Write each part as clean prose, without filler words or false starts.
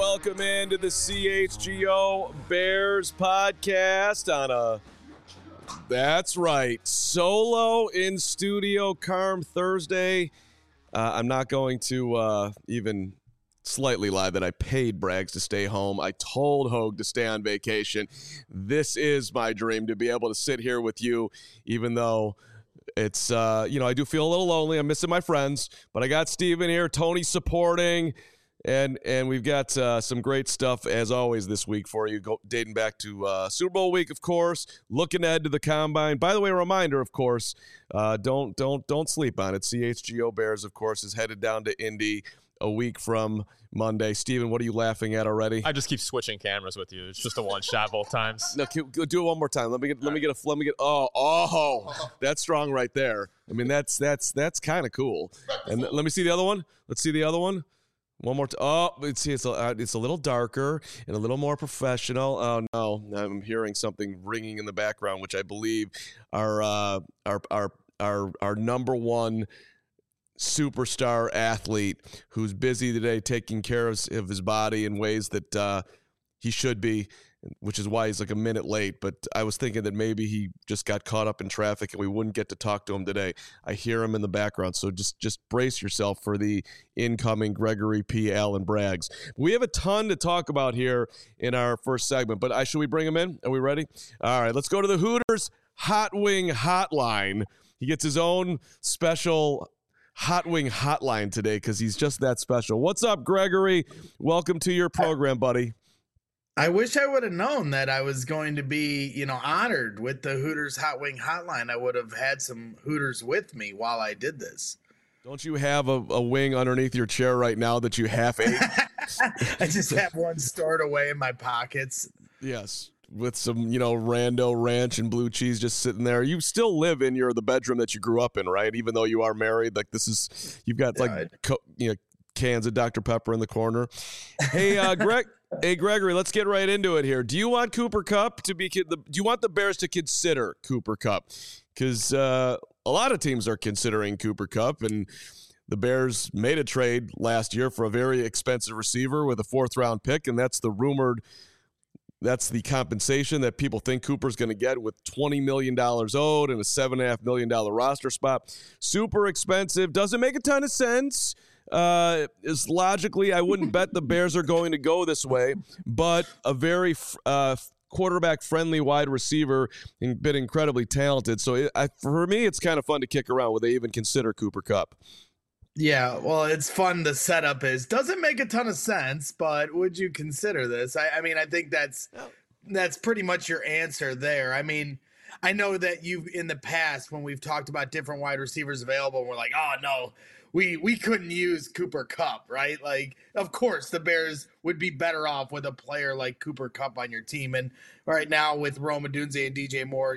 welcome into the CHGO Bears podcast on that's right, solo in studio Carm Thursday. I'm not going to even slightly lie that I paid Braggs to stay home. I told Hogue to stay on vacation. This is my dream, to be able to sit here with you, even though it's, I do feel a little lonely. I'm missing my friends, but I got Steven here, Tony supporting, and we've got some great stuff, as always, this week for you, dating back to Super Bowl week, of course, looking ahead to the Combine. By the way, a reminder, of course, don't sleep on it. CHGO Bears, of course, is headed down to Indy a week from Monday. Steven, what are you laughing at already? I just keep switching cameras with you. It's just a one shot both times. No, do it one more time. Let me get. Oh, that's strong right there. I mean, that's kind of cool. And let me see the other one. Let's see the other one. One more. It's a little darker and a little more professional. Oh no, I'm hearing something ringing in the background, which I believe our number one superstar athlete who's busy today taking care of his body in ways that he should be, which is why he's like a minute late. But I was thinking that maybe he just got caught up in traffic and we wouldn't get to talk to him today. I hear him in the background, so just brace yourself for the incoming Gregory P. Allen Braggs. We have a ton to talk about here in our first segment, but should we bring him in? Are we ready? All right, let's go to the Hooters Hot Wing Hotline. He gets his own special Hot Wing Hotline today because he's just that special. What's up, Gregory? Welcome to your program, buddy. I wish I would have known that I was going to be, honored with the Hooters Hot Wing Hotline. I would have had some Hooters with me while I did this. Don't you have a wing underneath your chair right now that you half ate? I just have one stored away in my pockets. Yes. With some, rando ranch and blue cheese just sitting there. You still live in the bedroom that you grew up in, right? Even though you are married, like you've got cans of Dr. Pepper in the corner. Hey, Gregory, let's get right into it here. Do you want Cooper Kupp do you want the Bears to consider Cooper Kupp? Because a lot of teams are considering Cooper Kupp, and the Bears made a trade last year for a very expensive receiver with a 4th-round pick, and that's the compensation that people think Cooper's going to get, with $20 million owed and a $7.5 million roster spot. Super expensive. Doesn't make a ton of sense. Is logically, I wouldn't bet the Bears are going to go this way, but a very quarterback-friendly wide receiver and been incredibly talented. So for me, it's kind of fun to kick around. Would they even consider Cooper Kupp? Yeah, well, it's fun. The setup doesn't make a ton of sense, but would you consider this? I mean, I think that's pretty much your answer there. I mean, I know that you've in the past when we've talked about different wide receivers available, we're like, oh no, we couldn't use Cooper Kupp, right? Like, of course, the Bears would be better off with a player like Cooper Kupp on your team. And right now with Rome Odunze and DJ Moore,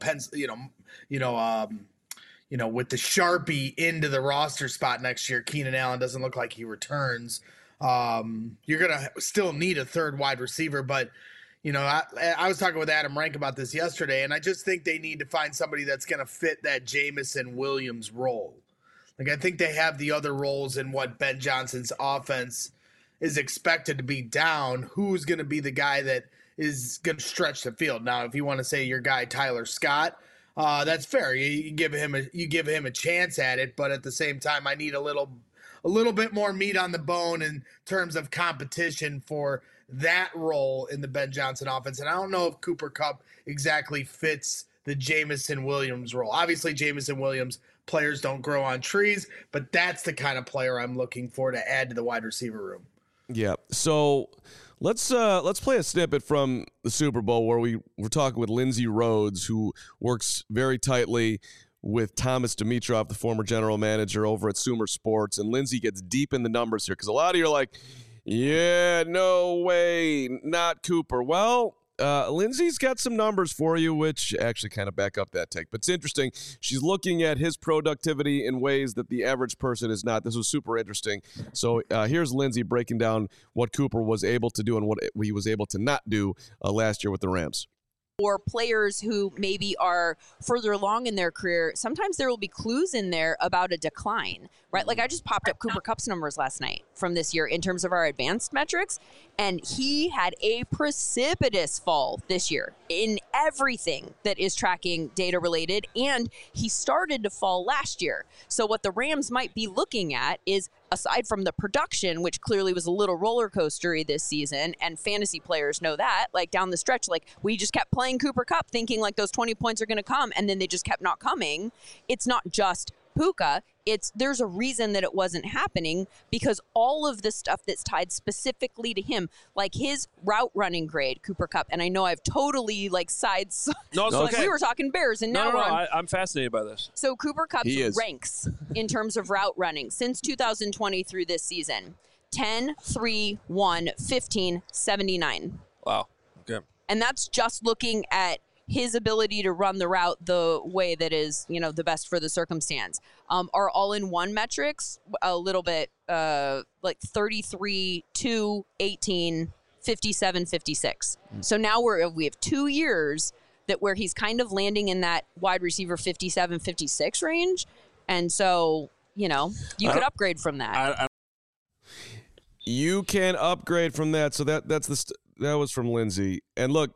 with the Sharpie into the roster spot next year, Keenan Allen doesn't look like he returns. You're going to still need a third wide receiver, but I was talking with Adam Rank about this yesterday, and I just think they need to find somebody that's going to fit that Jameson Williams role. Like, I think they have the other roles in what Ben Johnson's offense is expected to be down. Who's going to be the guy that is going to stretch the field? Now, if you want to say your guy Tyler Scott, that's fair. You give him a chance at it, but at the same time, I need a little bit more meat on the bone in terms of competition for that role in the Ben Johnson offense. And I don't know if Cooper Kupp exactly fits the Jameson Williams role. Obviously, Jameson Williams, players don't grow on trees, but that's the kind of player I'm looking for to add to the wide receiver room. Yeah. So let's play a snippet from the Super Bowl where we're talking with Lindsey Rhodes, who works very tightly with Thomas Dimitroff, the former general manager over at Sumer Sports. And Lindsey gets deep in the numbers here because a lot of you are like, yeah, no way, not Cooper. Well, Lindsay's got some numbers for you, which actually kind of back up that take. But it's interesting. She's looking at his productivity in ways that the average person is not. This was super interesting. So here's Lindsay breaking down what Cooper was able to do and what he was able to not do last year with the Rams. or players who maybe are further along in their career, sometimes there will be clues in there about a decline, right? Like I just popped up Cooper Kupp's numbers last night from this year in terms of our advanced metrics, and he had a precipitous fall this year in everything that is tracking data related, and he started to fall last year. So what the Rams might be looking at is, aside from the production, which clearly was a little roller coastery this season, and fantasy players know that, like down the stretch, like we just kept playing Cooper Kupp thinking like those 20 points are going to come, and then they just kept not coming. It's not just Puka. There's a reason that it wasn't happening, because all of the stuff that's tied specifically to him, like his route running grade, Cooper Kupp, and I know I've totally like sides. No, it's like okay. we were talking Bears, and now I'm fascinated by this. So Cooper Kupp's ranks in terms of route running since 2020 through this season: 10, 3, 1, 15, 79. Wow. Okay. And that's just looking at his ability to run the route the way that is, the best for the circumstance. Our all-in-one metrics, a little bit like 33, 2, 18, 57, 56. So now we have 2 years where he's kind of landing in that wide receiver 57, 56 range. And so, you could upgrade from that. You can upgrade from that. So that was from Lindsay. And look,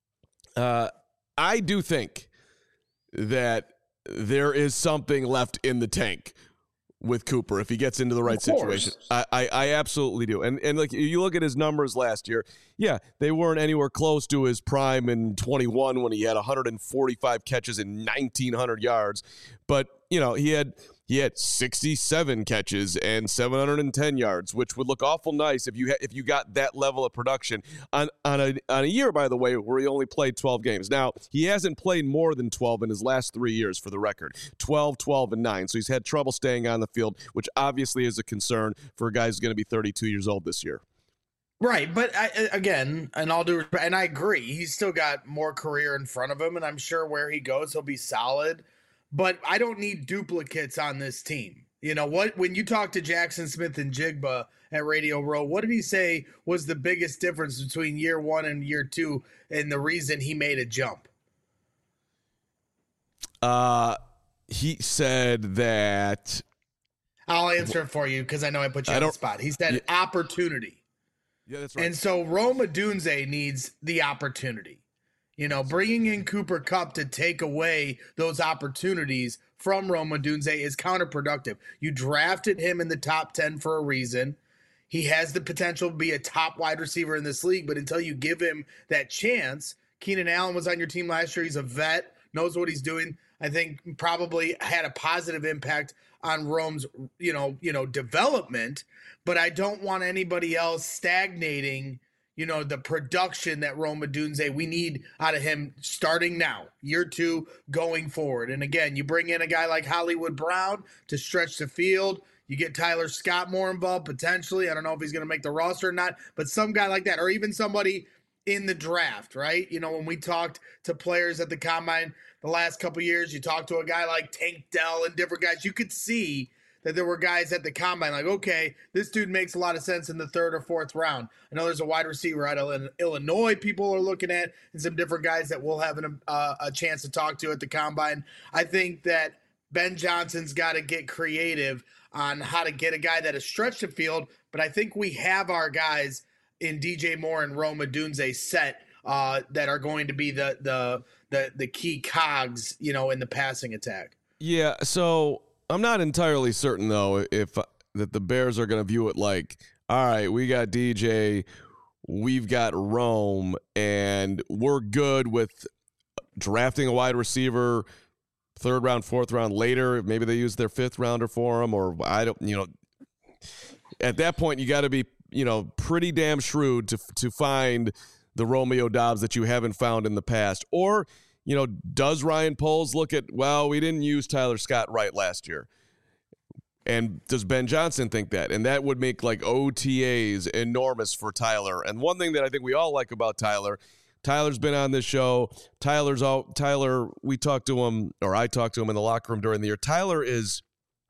I do think that there is something left in the tank with Cooper if he gets into the right situation. I absolutely do. And like you look at his numbers last year, yeah, they weren't anywhere close to his prime in 21 when he had 145 catches and 1,900 yards. But, he had 67 catches and 710 yards, which would look awful nice if you got that level of production on a year, by the way, where he only played 12 games. Now, he hasn't played more than 12 in his last 3 years, for the record. 12, 12, and 9. So he's had trouble staying on the field, which obviously is a concern for a guy who's going to be 32 years old this year. Right, but again, and all due respect, and I agree, he's still got more career in front of him, and I'm sure where he goes, he'll be solid. But I don't need duplicates on this team. When you talk to Jackson Smith and Jigba at Radio Row, what did he say was the biggest difference between year 1 and year 2 and the reason he made a jump? He said that... I'll answer it for you because I know I put you on the spot. He said opportunity. Yeah, that's right. And so Rome Odunze needs the opportunity. Bringing in Cooper Kupp to take away those opportunities from Rome Odunze is counterproductive. You drafted him in the top 10 for a reason. He has the potential to be a top wide receiver in this league, but until you give him that chance, Keenan Allen was on your team last year. He's a vet, knows what he's doing. I think probably had a positive impact on Rome's, development, but I don't want anybody else stagnating the production that Rome Odunze we need out of him starting now, year 2 going forward. And again, you bring in a guy like Hollywood Brown to stretch the field. You get Tyler Scott more involved potentially. I don't know if he's going to make the roster or not, but some guy like that, or even somebody in the draft, right? When we talked to players at the Combine the last couple of years, you talked to a guy like Tank Dell and different guys. You could see that there were guys at the Combine like, okay, this dude makes a lot of sense in the 3rd or 4th round. I know there's a wide receiver out of Illinois people are looking at, and some different guys that we'll have a chance to talk to at the Combine. I think that Ben Johnson's got to get creative on how to get a guy that has stretched the field, but I think we have our guys in DJ Moore and Rome Odunze set that are going to be the key cogs, in the passing attack. Yeah, so I'm not entirely certain, though, if that the Bears are going to view it like, all right, we got DJ, we've got Rome, and we're good with drafting a wide receiver 3rd round, 4th round later. Maybe they use their 5th rounder for him, or I don't, at that point, you got to be, pretty damn shrewd to find the Romeo Doubs that you haven't found in the past. Or, does Ryan Poles look at, well, we didn't use Tyler Scott right last year? And does Ben Johnson think that? And that would make like OTAs enormous for Tyler. And one thing that I think we all like about Tyler's been on this show. Tyler, we talked to him, or I talked to him in the locker room during the year. Tyler is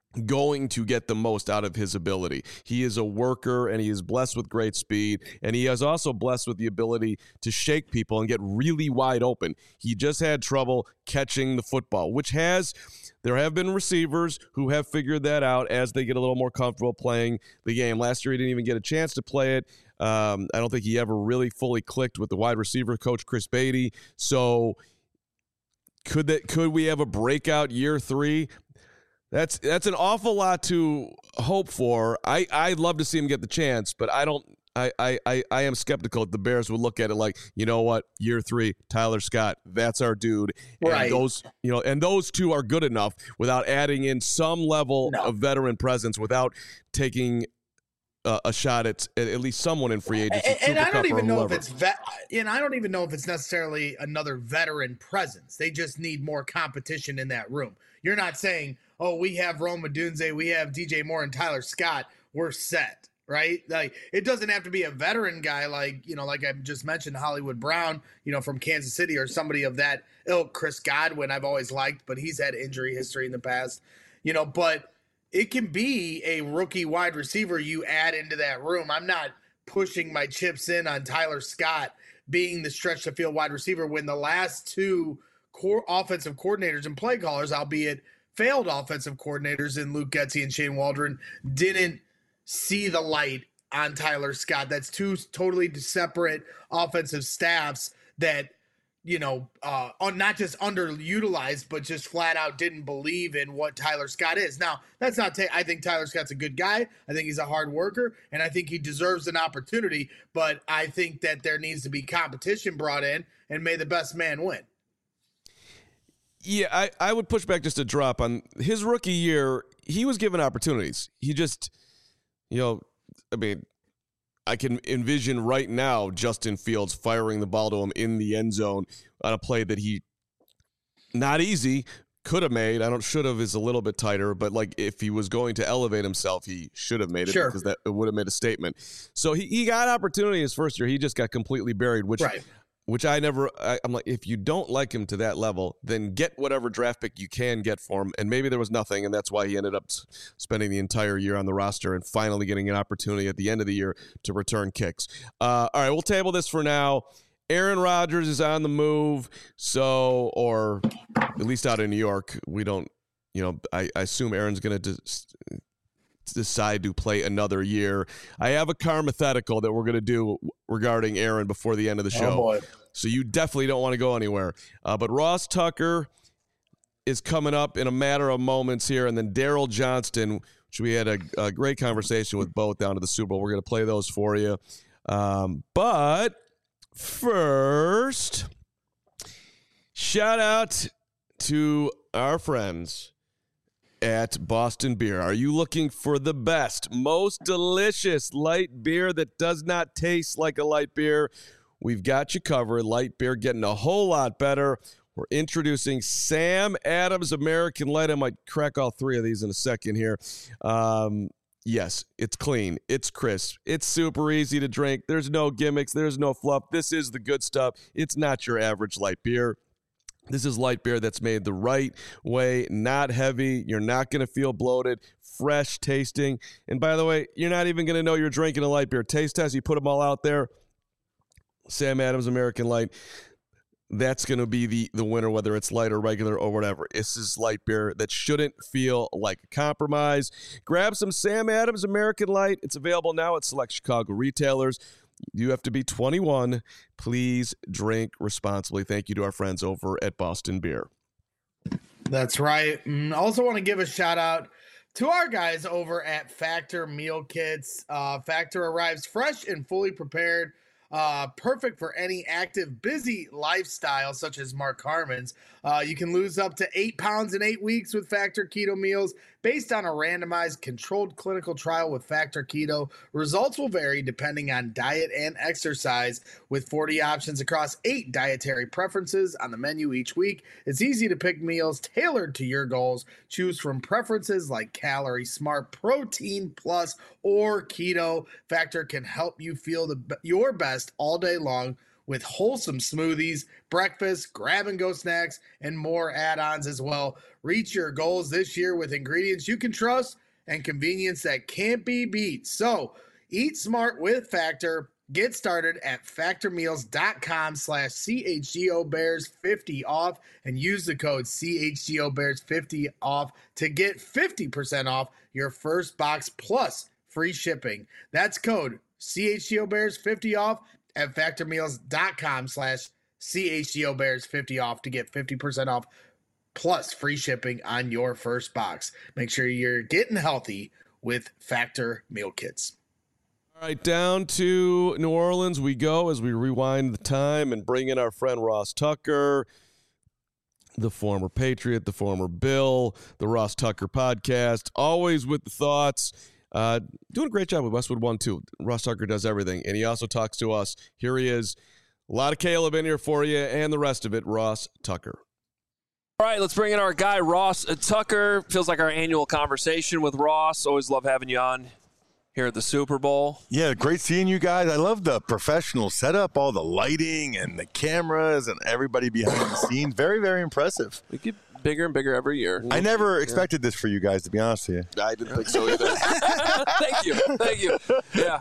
going to get the most out of his ability. He is a worker, and he is blessed with great speed, and he is also blessed with the ability to shake people and get really wide open. He just had trouble catching the football, there have been receivers who have figured that out as they get a little more comfortable playing the game. Last year, he didn't even get a chance to play it. I don't think he ever really fully clicked with the wide receiver coach, Chris Beatty. So could we have a breakout year 3? That's an awful lot to hope for. I'd love to see him get the chance, but I am skeptical that the Bears would look at it like, you know what, year 3, Tyler Scott, that's our dude. Right. And those two are good enough without adding in some level of veteran presence, without taking a shot at least someone in free agency. And I don't even know if I don't even know if it's necessarily another veteran presence. They just need more competition in that room. You're not saying, oh, we have Rome Odunze, we have DJ Moore and Tyler Scott, we're set, right? Like, it doesn't have to be a veteran guy like I just mentioned, Hollywood Brown, from Kansas City, or somebody of that ilk. Chris Godwin, I've always liked, but he's had injury history in the past, but it can be a rookie wide receiver you add into that room. I'm not pushing my chips in on Tyler Scott being the stretch the field wide receiver when the last two core offensive coordinators and play callers, albeit failed offensive coordinators in Luke Getsy and Shane Waldron, didn't see the light on Tyler Scott. That's two totally separate offensive staffs that, not just underutilized, but just flat out didn't believe in what Tyler Scott is. Now, that's not I think Tyler Scott's a good guy. I think he's a hard worker, and I think he deserves an opportunity, but I think that there needs to be competition brought in, and may the best man win. Yeah, I would push back just a drop on his rookie year. He was given opportunities. He just, I can envision right now Justin Fields firing the ball to him in the end zone on a play that he, not easy, could have made. Should have is a little bit tighter, but like if he was going to elevate himself, he should have made it, because that would have made a statement. So he got opportunity his first year. He just got completely buried, which I'm like, if you don't like him to that level, then get whatever draft pick you can get for him. And maybe there was nothing, and that's why he ended up spending the entire year on the roster and finally getting an opportunity at the end of the year to return kicks. All right, we'll table this for now. Aaron Rodgers is on the move, or at least out in New York. We don't, I assume Aaron's going to decide to play another year. I have a carmathetical that we're going to do regarding Aaron before the end of the show. Oh boy. So you definitely don't want to go anywhere. But Ross Tucker is coming up in a matter of moments here, and then Daryl Johnston, which we had a great conversation with both down to the Super Bowl. We're going to play those for you. But first, shout out to our friends at Boston Beer. Are you looking for the best, most delicious light beer that does not taste like a light beer? We've got you covered. Light beer getting a whole lot better. We're introducing Sam Adams American Light. I might crack all three of these in a second here. Yes, it's clean. It's crisp. It's super easy to drink. There's no gimmicks. There's no fluff. This is the good stuff. It's not your average light beer. This is light beer that's made the right way, not heavy. You're not going to feel bloated, fresh tasting. And by the way, you're not even going to know you're drinking a light beer. Taste test, you put them all out there. Sam Adams American Light, that's going to be the winner, whether it's light or regular or whatever. This is light beer that shouldn't feel like a compromise. Grab some Sam Adams American Light. It's available now at select Chicago retailers. You have to be 21. Please drink responsibly. Thank you to our friends over at Boston Beer. That's right. Also want to give a shout out to our guys over at Factor Meal Kits. Factor arrives fresh and fully prepared. Perfect for any active, busy lifestyle such as Mark Harmon's. You can lose up to 8 pounds in 8 weeks with Factor Keto meals based on a randomized controlled clinical trial with Factor Keto. Results will vary depending on diet and exercise, with 40 options across 8 dietary preferences on the menu each week. It's easy to pick meals tailored to your goals. Choose from preferences like Calorie Smart, Protein Plus, or Keto. Factor can help you feel your best all day long with wholesome smoothies, breakfast, grab-and-go snacks, and more add-ons as well. Reach your goals this year with ingredients you can trust and convenience that can't be beat. So, eat smart with Factor. Get started at factormeals.com/CHGOBears50 off and use the code CHGOBears50 off to get 50% off your first box plus free shipping. That's code CHGOBears50 off at factormeals.com/CHGOBears50 off to get 50% off plus free shipping on your first box. Make sure you're getting healthy with Factor Meal Kits. All right, down to New Orleans we go as we rewind the time and bring in our friend Ross Tucker, the former Patriot, the former Bill, the Ross Tucker podcast, always with the thoughts. Doing a great job with Westwood One, too. Ross Tucker does everything, and he also talks to us. Here he is. A lot of Caleb in here for you and the rest of it, Ross Tucker. All right, let's bring in our guy, Ross Tucker. Feels like our annual conversation with Ross. Always love having you on here at the Super Bowl. Yeah, great seeing you guys. I love the professional setup, all the lighting and the cameras and everybody behind the scenes. Very, very impressive. We get bigger and bigger every year. I never expected this for you guys, to be honest with you. I didn't think so either. Thank you. Yeah.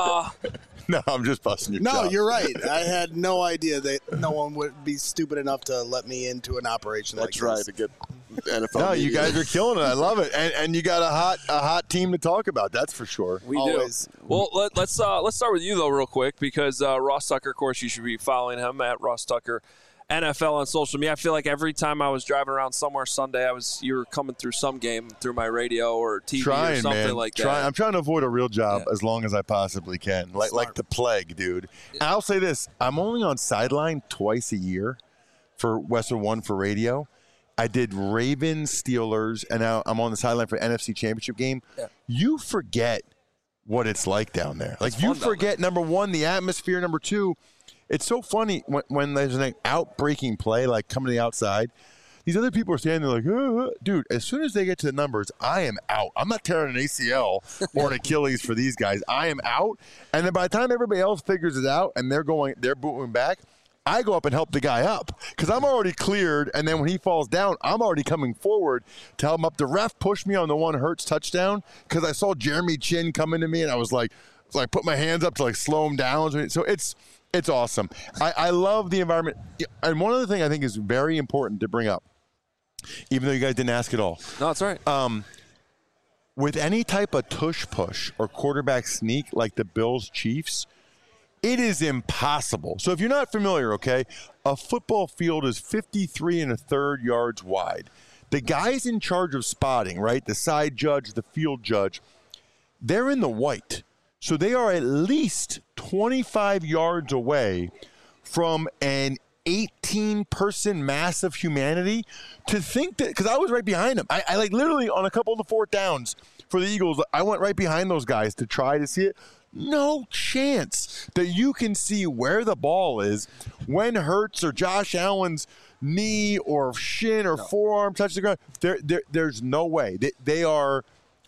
No, I'm just busting your No, chops. you're right. I had no idea that no one would be stupid enough to let me into an operation like this. That's right, to get NFL No, you media. guys are killing it. I love it, and you got a hot team to talk about. That's for sure. We Always. do. Well, let's start with you though, real quick, because Ross Tucker, of course, you should be following him at Ross Tucker NFL on social media. I feel like every time I was driving around somewhere Sunday, you were coming through some game through my radio or TV or something like that. I'm trying to avoid a real job as long as I possibly can, like the plague, dude. And I'll say this: I'm only on sideline twice a year for Westwood One for radio. I did Ravens, Steelers, and now I'm on the sideline for NFC Championship game. Yeah. You forget what it's like down there. Like, you forget, number one, the atmosphere. Number two, it's so funny when there's an outbreaking play, like coming to the outside. These other people are standing there like, dude, as soon as they get to the numbers, I am out. I'm not tearing an ACL or an Achilles for these guys. I am out. And then by the time everybody else figures it out and they're booting back, I go up and help the guy up because I'm already cleared. And then when he falls down, I'm already coming forward to help him up. The ref pushed me on the one Hurts touchdown because I saw Jeremy Chin coming to me, and I was like put my hands up to like slow him down. So it's awesome. I love the environment. And one other thing I think is very important to bring up, even though you guys didn't ask at all. No, that's right. With any type of tush push or quarterback sneak like the Bills-Chiefs, it is impossible. So if you're not familiar, okay, a football field is 53 1/3 yards wide. The guys in charge of spotting, right, the side judge, the field judge, they're in the white. So they are at least 25 yards away from an 18-person mass of humanity. To think that, because I was right behind them. I like literally on a couple of the fourth downs for the Eagles, I went right behind those guys to try to see it. No chance that you can see where the ball is when Hurts or Josh Allen's knee or shin or forearm touch the ground. There's no way. They are,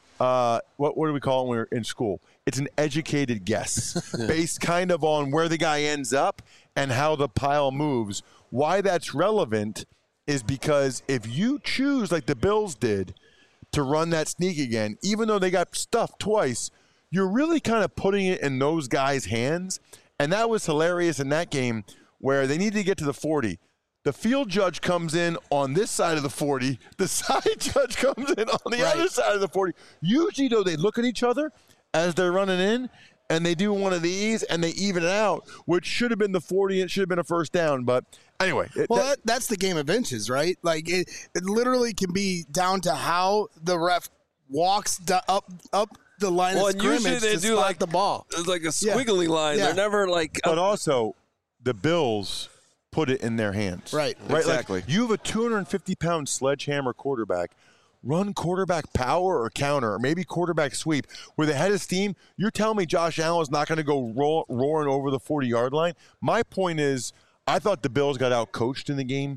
what do we call it when we're in school? It's an educated guess based kind of on where the guy ends up and how the pile moves. Why that's relevant is because if you choose, like the Bills did, to run that sneak again, even though they got stuffed twice, you're really kind of putting it in those guys' hands. And that was hilarious in that game where they needed to get to the 40. The field judge comes in on this side of the 40. The side judge comes in on the other side of the 40. Usually, though, they look at each other as they're running in, and they do one of these, and they even it out, which should have been the 40. It should have been a first down. But anyway. That's the game of inches, right? Like, it literally can be down to how the ref walks up the line of scrimmage usually they to do spot like the ball. It's like a squiggly line. Yeah. They're never like. But also, the Bills put it in their hands. Right. Exactly. Like, you have a 250-pound sledgehammer quarterback. Run quarterback power or counter, or maybe quarterback sweep. With the head of steam, you're telling me Josh Allen's not going to go roaring over the 40-yard line? My point is, I thought the Bills got out-coached in the game.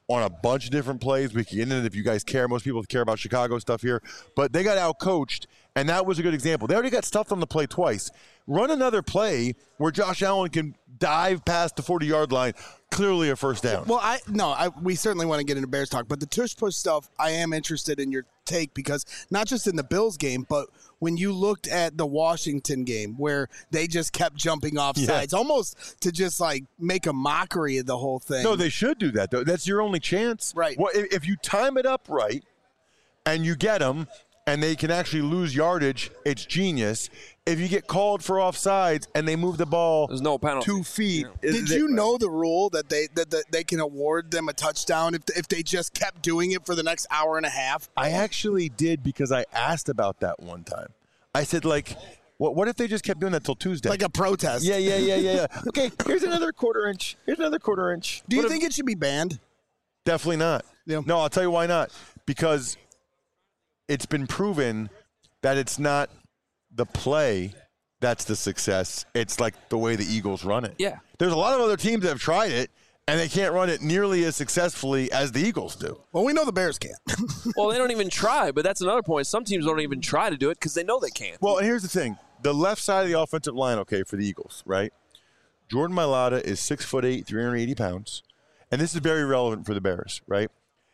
on a bunch of different plays. We can get into it if you guys care. Most people care about Chicago stuff here. But they got out-coached, and that was a good example. They already got stuffed on the play twice. Run another play where Josh Allen can dive past the 40-yard line, clearly a first down. Well, we certainly want to get into Bears talk, but the tush-push stuff, I am interested in your take because not just in the Bills game, but when you looked at the Washington game where they just kept jumping off sides, almost to just like make a mockery of the whole thing. No, they should do that, though. That's your only chance. Right. Well, if you time it up right and you get them and they can actually lose yardage, it's genius. If you get called for offsides and they move the ball there's no penalty. 2 feet. Did you know the rule that they can award them a touchdown if they just kept doing it for the next hour and a half? I actually did because I asked about that one time. I said, like, what if they just kept doing that till Tuesday? Like a protest. Yeah. Okay, here's another quarter inch. Here's another quarter inch. Do you think it should be banned? Definitely not. Yeah. No, I'll tell you why not. Because it's been proven that it's not the play that's the success. It's like the way the Eagles run it. Yeah. There's a lot of other teams that have tried it, and they can't run it nearly as successfully as the Eagles do. Well, we know the Bears can't. Well, they don't even try, but that's another point. Some teams don't even try to do it because they know they can't. Well, and here's the thing. The left side of the offensive line, okay, for the Eagles, right? Jordan Mailata is 6'8", 380 pounds. And this is very relevant for the Bears, right?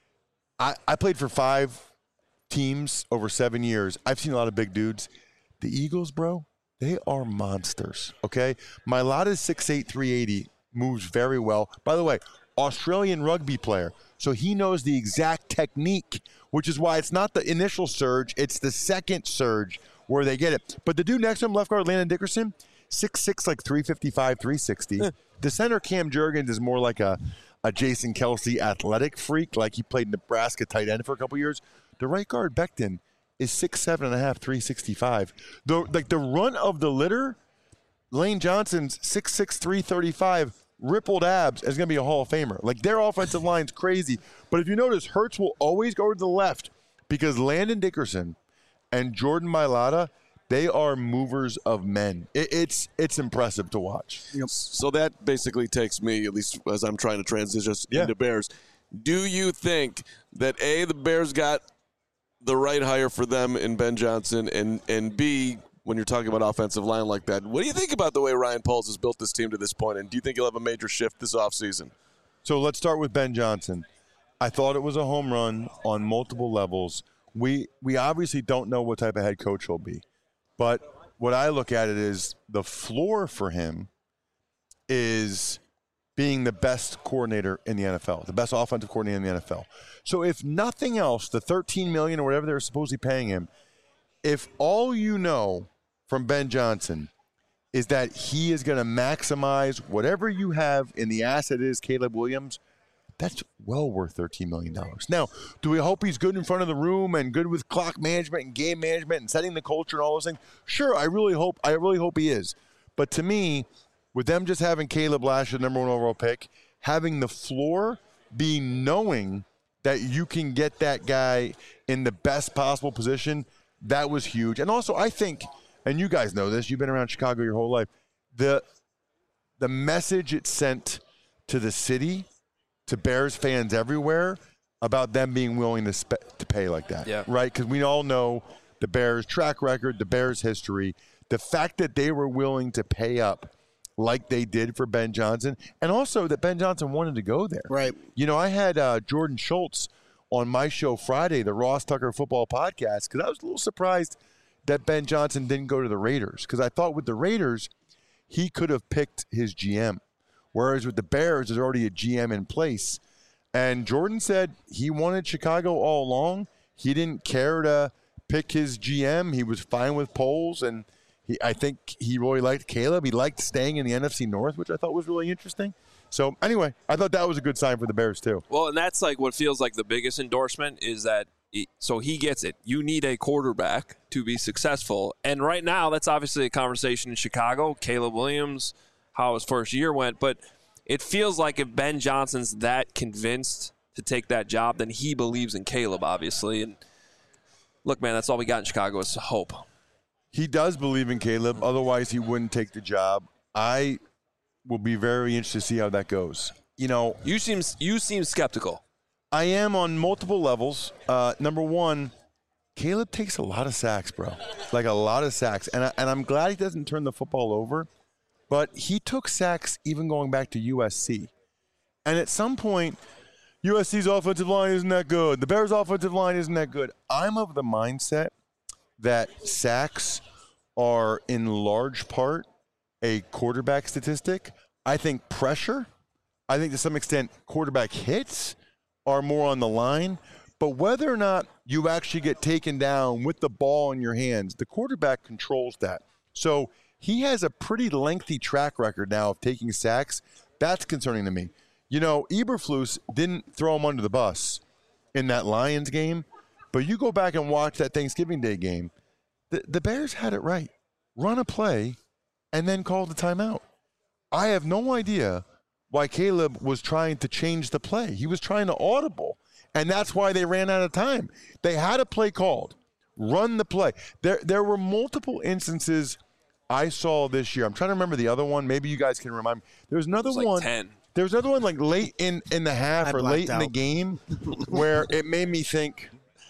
I played for 5 teams over 7 years. I've seen a lot of big dudes. The Eagles, bro, they are monsters, okay? Mailata's 6'8", 380, moves very well. By the way, Australian rugby player, so he knows the exact technique, which is why it's not the initial surge, it's the second surge where they get it. But the dude next to him, left guard Landon Dickerson, 6'6", like 355, 360. The center, Cam Jurgens, is more like a Jason Kelsey athletic freak, like he played Nebraska tight end for a couple years. The right guard, Becton, is 6'7.5", 365. The run of the litter, Lane Johnson's 6'6", 335, rippled abs is going to be a Hall of Famer. Like, their offensive line's crazy. But if you notice, Hurts will always go to the left because Landon Dickerson and Jordan Mailata, they are movers of men. It's impressive to watch. Yep. So that basically takes me, at least as I'm trying to transition into Bears. Do you think that, A, the Bears got the right hire for them in Ben Johnson, and B, when you're talking about offensive line like that, what do you think about the way Ryan Poles has built this team to this point, and do you think he'll have a major shift this offseason? So let's start with Ben Johnson. I thought it was a home run on multiple levels. We obviously don't know what type of head coach he'll be, but what I look at it is the floor for him is being the best coordinator in the NFL, the best offensive coordinator in the NFL. So if nothing else, the $13 million or whatever they're supposedly paying him, if all you know from Ben Johnson is that he is going to maximize whatever you have in the asset is Caleb Williams, that's well worth $13 million. Now, do we hope he's good in front of the room and good with clock management and game management and setting the culture and all those things? Sure, I really hope he is. But to me, with them just having Caleb last year, number 1 overall pick, having the floor be knowing that you can get that guy in the best possible position, that was huge. And also, I think, and you guys know this, you've been around Chicago your whole life, the message it sent to the city, to Bears fans everywhere, about them being willing to pay like that, right? Because we all know the Bears' track record, the Bears' history, the fact that they were willing to pay up like they did for Ben Johnson, and also that Ben Johnson wanted to go there. Right. You know, I had Jordan Schultz on my show Friday, the Ross Tucker Football Podcast, because I was a little surprised that Ben Johnson didn't go to the Raiders, because I thought with the Raiders, he could have picked his GM, whereas with the Bears, there's already a GM in place. And Jordan said he wanted Chicago all along. He didn't care to pick his GM. He was fine with Poles, and I think he really liked Caleb. He liked staying in the NFC North, which I thought was really interesting. So, anyway, I thought that was a good sign for the Bears, too. Well, and that's like what feels like the biggest endorsement is that so he gets it. You need a quarterback to be successful. And right now, that's obviously a conversation in Chicago. Caleb Williams, how his first year went. But it feels like if Ben Johnson's that convinced to take that job, then he believes in Caleb, obviously. And look, man, that's all we got in Chicago is hope. He does believe in Caleb. Otherwise, he wouldn't take the job. I will be very interested to see how that goes. You know, you seem skeptical. I am on multiple levels. Number one, Caleb takes a lot of sacks, bro. Like a lot of sacks. And I'm glad he doesn't turn the football over. But he took sacks even going back to USC. And at some point, USC's offensive line isn't that good. The Bears' offensive line isn't that good. I'm of the mindset that sacks are in large part a quarterback statistic. I think pressure, I think to some extent quarterback hits are more on the line. But whether or not you actually get taken down with the ball in your hands, the quarterback controls that. So he has a pretty lengthy track record now of taking sacks. That's concerning to me. You know, Eberflus didn't throw him under the bus in that Lions game, but you go back and watch that Thanksgiving Day game, the Bears had it right. Run a play and then call the timeout. I have no idea why Caleb was trying to change the play. He was trying to audible, and that's why they ran out of time. They had a play called. Run the play. There were multiple instances I saw this year. I'm trying to remember the other one. Maybe you guys can remind me. There was another one. 10. There was another one like late in the half or late in the game where it made me think,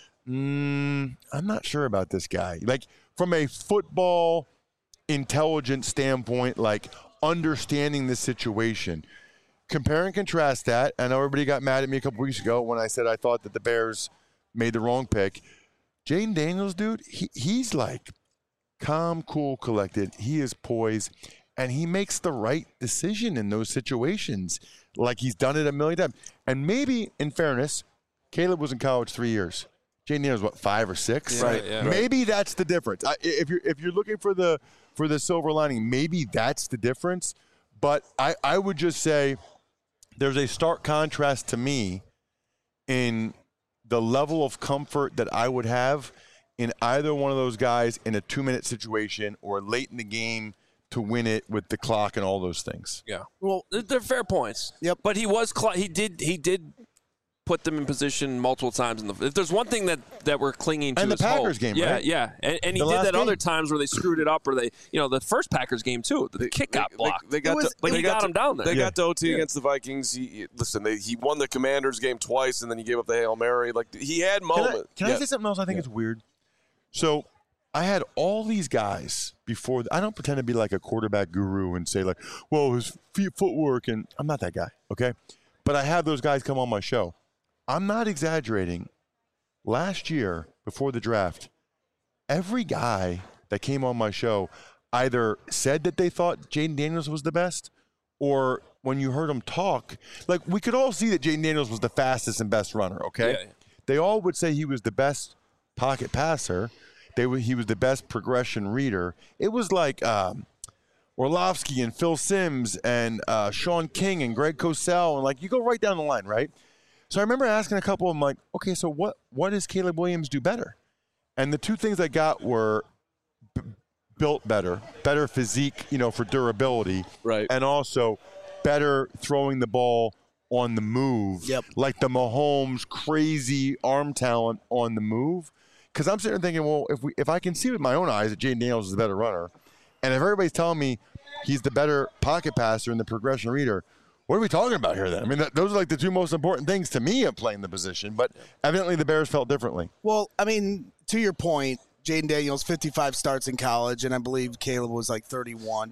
I'm not sure about this guy. Like from a football intelligence standpoint, like understanding the situation. Compare and contrast that. I know everybody got mad at me a couple weeks ago when I said I thought that the Bears made the wrong pick. Jaden Daniels, dude, he's like calm, cool, collected. He is poised. And he makes the right decision in those situations, like he's done it a million times. And maybe, in fairness, Caleb was in college 3 years. Jaden Daniels, what, 5 or 6? Yeah, right. Yeah. Maybe that's the difference. If you're looking for the silver lining, maybe that's the difference. But I would just say there's a stark contrast to me in the level of comfort that I would have in either one of those guys in a 2-minute situation or late in the game to win it with the clock and all those things. Yeah. Well, they're fair points. Yep. But he did put them in position multiple times. If there's one thing that we're clinging to, and the Packers game, yeah, right? Yeah, and he did that other times where they screwed it up, or the first Packers game too. The kick got blocked. They got him down there. They got to OT against the Vikings. He won the Commanders game twice, and then he gave up the Hail Mary. Like he had moments. Can I say something else? I think it's weird. So I had all these guys before. I don't pretend to be like a quarterback guru and say like, well, his footwork, and I'm not that guy, okay? But I have those guys come on my show. I'm not exaggerating. Last year, before the draft, every guy that came on my show either said that they thought Jaden Daniels was the best, or when you heard them talk, like we could all see that Jaden Daniels was the fastest and best runner, okay? Yeah. They all would say he was the best pocket passer. He was the best progression reader. It was like Orlovsky and Phil Simms and Sean King and Greg Cosell, and like you go right down the line, right? So I remember asking a couple of them, like, okay, so what does Caleb Williams do better? And the two things I got were built better physique, for durability, right, and also better throwing the ball on the move, like the Mahomes crazy arm talent on the move. Because I'm sitting there thinking, well, if I can see with my own eyes that Jaden Daniels is the better runner, and if everybody's telling me he's the better pocket passer and the progression reader, what are we talking about here then? I mean, those are like the two most important things to me of playing the position, but evidently the Bears felt differently. Well, I mean, to your point, Jaden Daniels, 55 starts in college, and I believe Caleb was like 31.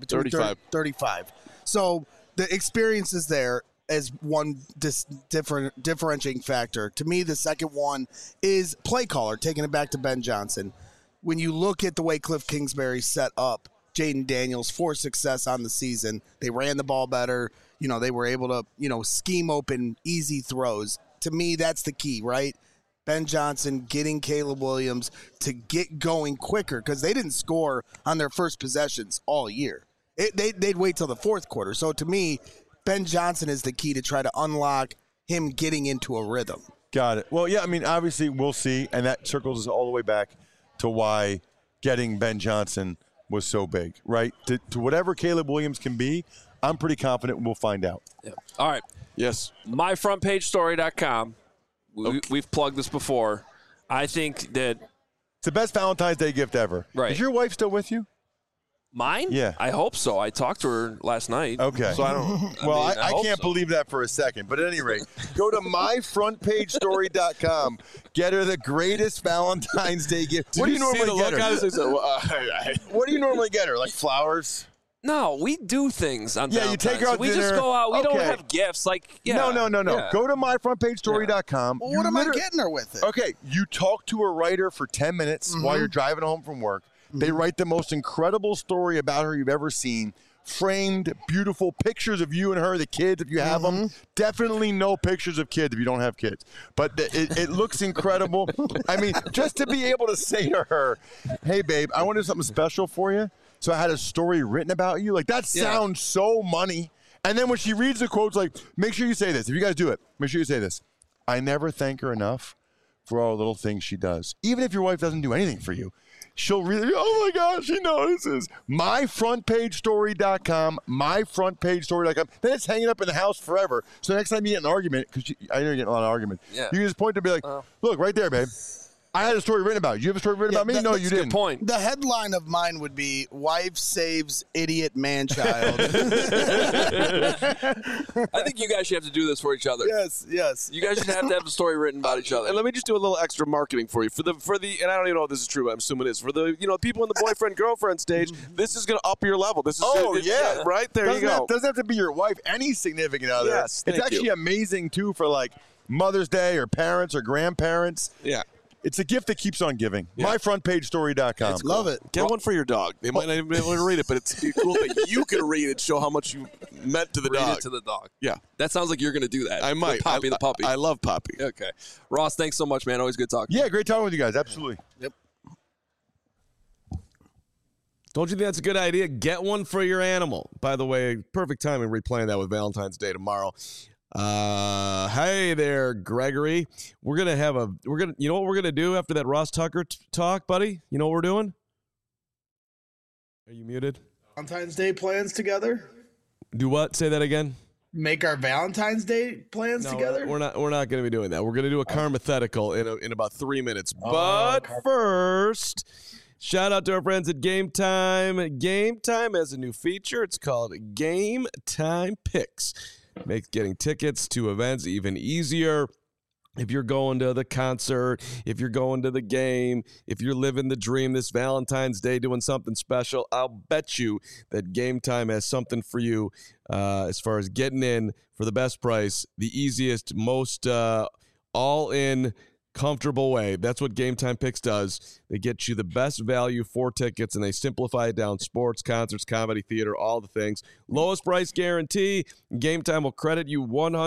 35. So the experience is there as one differentiating factor. To me, the second one is play caller, taking it back to Ben Johnson. When you look at the way Cliff Kingsbury set up Jaden Daniels for success on the season, they ran the ball better. They were able to, scheme open easy throws. To me, that's the key, right? Ben Johnson getting Caleb Williams to get going quicker because they didn't score on their first possessions all year. They'd wait till the fourth quarter. So to me, Ben Johnson is the key to try to unlock him getting into a rhythm. Got it. Well, yeah, I mean, obviously we'll see, and that circles us all the way back to why getting Ben Johnson was so big, right? To whatever Caleb Williams can be, I'm pretty confident we'll find out. Yeah. All right. Yes. MyFrontPageStory.com. We've plugged this before. I think that it's the best Valentine's Day gift ever. Right. Is your wife still with you? Mine? Yeah. I hope so. I talked to her last night. Okay. So I don't. I hope can't so. believe that for a second. But at any rate, go to myfrontpagestory.com. Get her the greatest Valentine's Day gift. What do you normally get her? What do you normally get her? Like flowers? No, we do things on Yeah, you take her out We dinner. just go out. We don't Okay. have gifts. Like, yeah. No. Yeah. Go to myfrontpagestory.com. Well, what am I getting her with it? Okay, you talk to a writer for 10 minutes while you're driving home from work. They write the most incredible story about her you've ever seen. Framed, beautiful pictures of you and her, the kids, if you have them. Definitely no pictures of kids if you don't have kids. But it looks incredible. I mean, just to be able to say to her, hey, babe, I want to do something special for you. So I had a story written about you. Like, that sounds so money. And then when she reads the quotes, like, make sure you say this. If you guys do it, make sure you say this. I never thank her enough for all the little things she does. Even if your wife doesn't do anything for you, she'll really, oh my gosh, she notices. Myfrontpagestory.com, myfrontpagestory.com. Then it's hanging up in the house forever. So next time you get in an argument, because I know you're getting a lot of argument, you can just point to be like, look, right there, babe. I had a story written about you. You have a story written about me? No, you didn't. Good point. The headline of mine would be "Wife Saves Idiot Man-Child." I think you guys should have to do this for each other. Yes. You guys should have to have a story written about each other. And let me just do a little extra marketing for you for the and I don't even know if this is true, but I'm assuming it is. For the people in the boyfriend girlfriend stage, this is going to up your level. This is right there. You go. Doesn't have to be your wife, any significant other. Yes, it's thank actually you. amazing too for like Mother's Day or parents or grandparents. Yeah. It's a gift that keeps on giving. Yeah. Myfrontpagestory.com. Love it. Get one for your dog. They might not even be able to read it, but it's cool that you can read it, show how much you meant to the Read dog. it to the dog. Yeah. That sounds like you're going to do that. I might. The Poppy, the puppy. I love Poppy. Okay. Ross, thanks so much, man. Always good talking. Yeah, great talking with you guys. Absolutely. Yep. Don't you think that's a good idea? Get one for your animal. By the way, perfect timing replaying that with Valentine's Day tomorrow. Hey there, Gregory. You know what we're gonna do after that Ross Tucker talk, buddy? You know what we're doing? Are you muted? Valentine's Day plans together? Do what? Say that again. Make our Valentine's Day plans together? We're not going to be doing that. We're going to do a Karmathetical in about 3 minutes. But first, shout out to our friends at Game Time. Game Time has a new feature. It's called Game Time Picks. Makes getting tickets to events even easier. If you're going to the concert, if you're going to the game, if you're living the dream this Valentine's Day doing something special, I'll bet you that Game Time has something for you as far as getting in for the best price, the easiest, most all-in, comfortable way. That's what Game Time Picks does. They get you the best value for tickets, and they simplify it down. Sports, concerts, comedy, theater, all the things. Lowest price guarantee. Game Time will credit you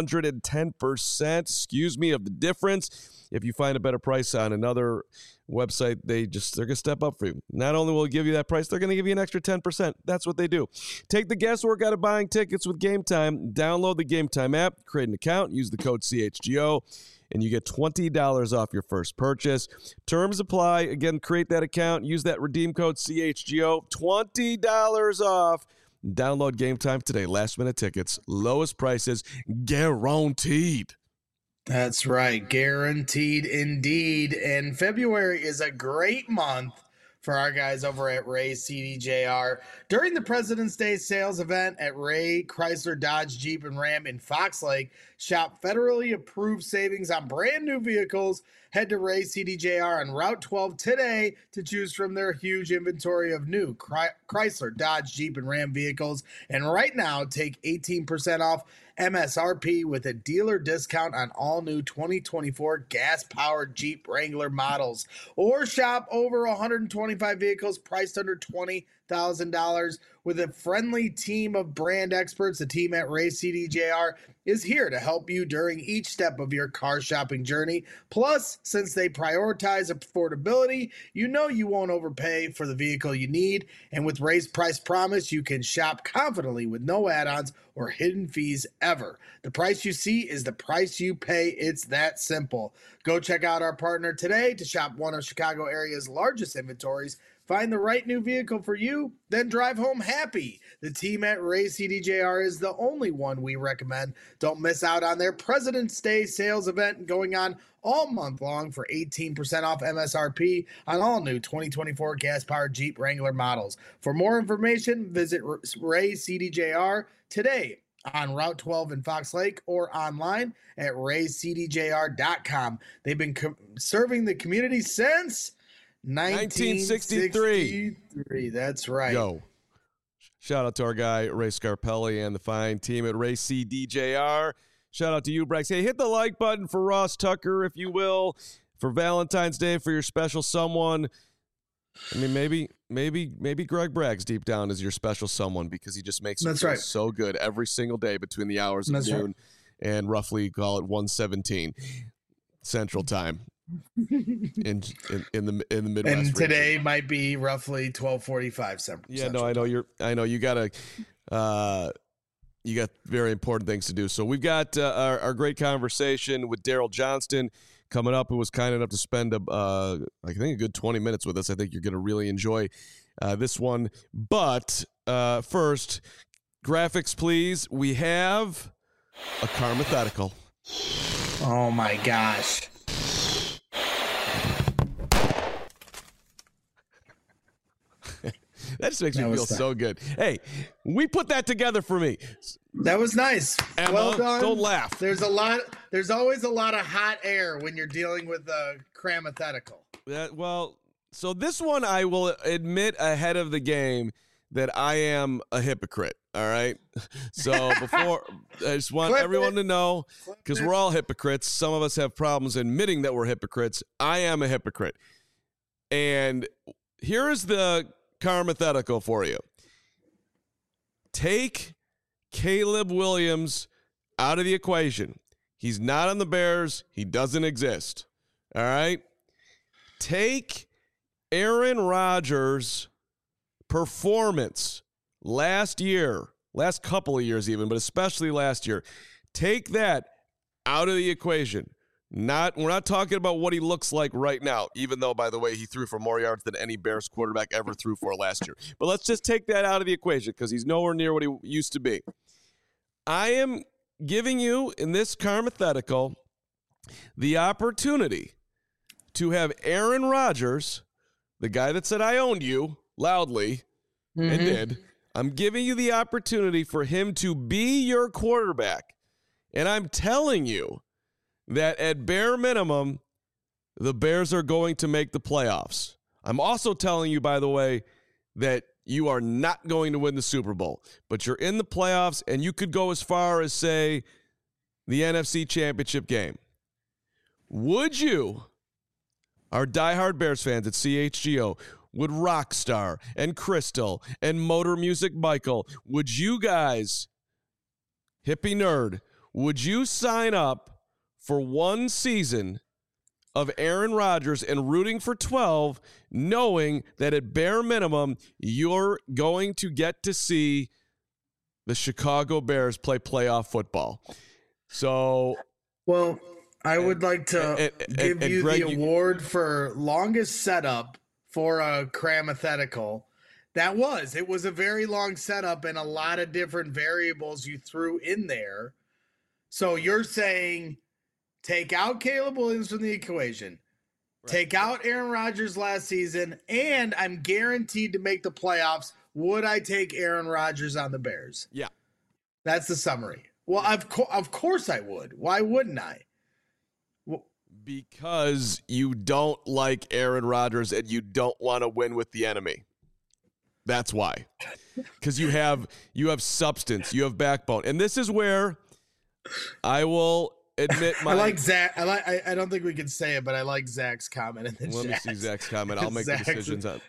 110%, of the difference. If you find a better price on another website, they're going to step up for you. Not only will they give you that price, they're going to give you an extra 10%. That's what they do. Take the guesswork out of buying tickets with Game Time. Download the Game Time app, create an account, use the code CHGO, and you get $20 off your first purchase. Terms apply. Again, create that account. Use that redeem code CHGO. $20 off. Download Game Time today. Last-minute tickets. Lowest prices. Guaranteed. That's right. Guaranteed indeed. And February is a great month for our guys over at Ray CDJR. During the President's Day sales event at Ray Chrysler Dodge Jeep and Ram in Fox Lake, shop federally approved savings on brand new vehicles. Head to Ray CDJR on Route 12 today to choose from their huge inventory of new Chrysler, Dodge, Jeep, and Ram vehicles. And right now, take 18% off MSRP with a dealer discount on all new 2024 gas-powered Jeep Wrangler models. Or shop over 125 vehicles priced under $20,000 with a friendly team of brand experts. The team at Ray CDJR is here to help you during each step of your car shopping journey. Plus, since they prioritize affordability, you know you won't overpay for the vehicle you need. And with Ray's Price Promise, you can shop confidently with no add-ons or hidden fees ever. The price you see is the price you pay. It's that simple. Go check out our partner today to shop one of Chicago area's largest inventories. Find the right new vehicle for you, then drive home happy. The team at Ray CDJR is the only one we recommend. Don't miss out on their President's Day sales event going on all month long for 18% off MSRP on all new 2024 gas-powered Jeep Wrangler models. For more information, visit Ray CDJR today on Route 12 in Fox Lake or online at raycdjr.com. They've been serving the community since 1963. That's right. Yo. Shout out to our guy, Ray Scarpelli, and the fine team at Ray CDJR. Shout out to you, Brex. Hey, hit the like button for Ross Tucker, if you will, for Valentine's Day, for your special someone. I mean, maybe Greg Braggs deep down is your special someone because he just makes it feel so good every single day between the hours of noon and roughly, call it 1:17 Central Time. in the Midwest. And today region might be roughly 12:45 Central. Yeah, no, I know you got very important things to do. So we've got our great conversation with Daryl Johnston coming up, who was kind enough to spend I think a good 20 minutes with us. I think you're going to really enjoy this one. But first, graphics, please. We have a Karmathetical. Oh my gosh. That just makes me feel so good. Hey, we put that together for me. That was nice. Emma, well done. Don't laugh. There's always a lot of hot air when you're dealing with a Karmathetical. So this one I will admit ahead of the game that I am a hypocrite. All right. So before, I just want everyone to know, because we're all hypocrites. Some of us have problems admitting that we're hypocrites. I am a hypocrite. And here is the Karmathetical for you. Take Caleb Williams out of the equation. He's not on the Bears. He doesn't exist. All right. Take Aaron Rodgers' performance last couple of years even, but especially last year. Take that out of the equation. We're not talking about what he looks like right now, even though, by the way, he threw for more yards than any Bears quarterback ever threw for last year. But let's just take that out of the equation because he's nowhere near what he used to be. I am giving you, in this Karmathetical, the opportunity to have Aaron Rodgers, the guy that said I owned you loudly and did. I'm giving you the opportunity for him to be your quarterback. And I'm telling you that at bare minimum, the Bears are going to make the playoffs. I'm also telling you, by the way, that you are not going to win the Super Bowl, but you're in the playoffs, and you could go as far as, say, the NFC Championship game. Would you, our diehard Bears fans at CHGO, would Rockstar and Crystal and Motor Music Michael, would you guys, Hippie Nerd, would you sign up for one season of Aaron Rodgers and rooting for 12, knowing that at bare minimum, you're going to get to see the Chicago Bears play playoff football? So, well, I would like to give you Greg, the award for longest setup for a Karmathetical. It was a very long setup and a lot of different variables you threw in there. So you're saying take out Caleb Williams from the equation, take out Aaron Rodgers last season, and I'm guaranteed to make the playoffs. Would I take Aaron Rodgers on the Bears? Yeah. That's the summary. Well, of course I would. Why wouldn't I? Because you don't like Aaron Rodgers and you don't want to win with the enemy. That's why. Because you have substance, you have backbone. And this is where I will admit I like Zach. I don't think we can say it, but I like Zach's comment in the chat. Let me see Zach's comment. I'll make the decisions on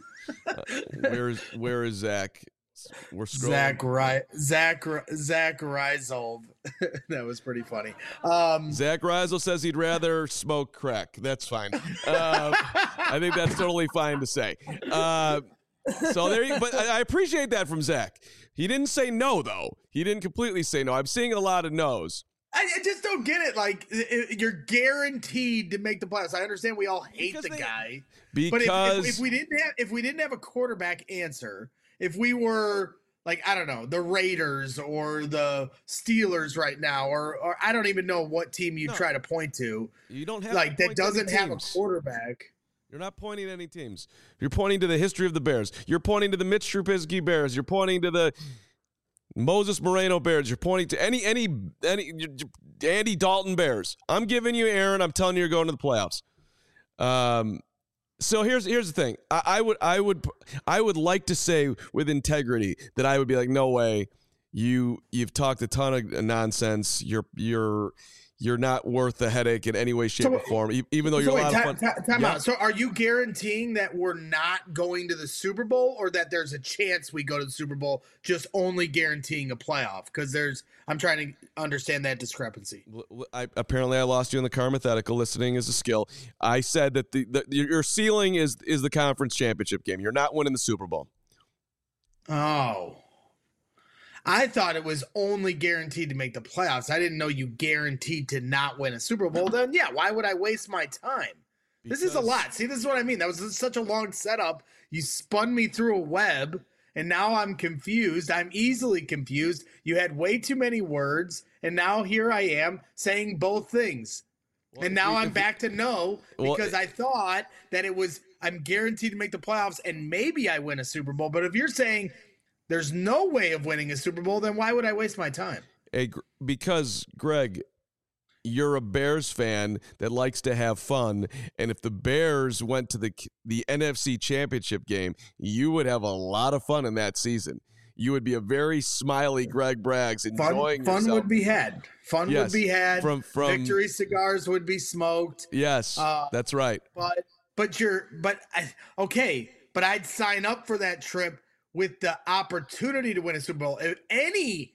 where is Zach? We're scrolling. Zach Reisold. That was pretty funny. Zach Reisold says he'd rather smoke crack. That's fine. I think that's totally fine to say. So there you. But I appreciate that from Zach. He didn't say no though. He didn't completely say no. I'm seeing a lot of no's. I just don't get it. Like, you're guaranteed to make the playoffs. I understand we all hate the guy, but if we didn't have a quarterback answer, if we were like, I don't know, the Raiders or the Steelers right now, or I don't even know what team you try to point to. You don't have like that doesn't have a quarterback. You're not pointing at any teams. You're pointing to the history of the Bears. You're pointing to the Mitch Trubisky Bears. You're pointing to the Moses Moreno Bears. You're pointing to any Andy Dalton Bears. I'm giving you Aaron. I'm telling you, you're going to the playoffs. So here's the thing. I would like to say with integrity that I would be like, no way. You've talked a ton of nonsense. You're not worth the headache in any way, shape, or form, even though you're a lot of fun. Time out. So are you guaranteeing that we're not going to the Super Bowl, or that there's a chance we go to the Super Bowl, just only guaranteeing a playoff? Because I'm trying to understand that discrepancy. Apparently I lost you in the Carmathetical. Listening is a skill. I said that your ceiling is the conference championship game. You're not winning the Super Bowl. Oh. I thought it was only guaranteed to make the playoffs. I didn't know you guaranteed to not win a Super Bowl. Then, yeah, why would I waste my time? This is a lot. See, this is what I mean. That was such a long setup. You spun me through a web, and now I'm confused. I'm easily confused. You had way too many words, and now here I am saying both things. Well, and now I'm back to no, because I thought that I'm guaranteed to make the playoffs, and maybe I win a Super Bowl. But if you're saying there's no way of winning a Super Bowl, then why would I waste my time? Because, Greg, you're a Bears fan that likes to have fun, and if the Bears went to the NFC Championship game, you would have a lot of fun in that season. You would be a very smiley Greg Braggs, enjoying yourself. Fun would be had. Fun would be had. From victory cigars would be smoked. Yes, that's right. But I'd sign up for that trip with the opportunity to win a Super Bowl. If any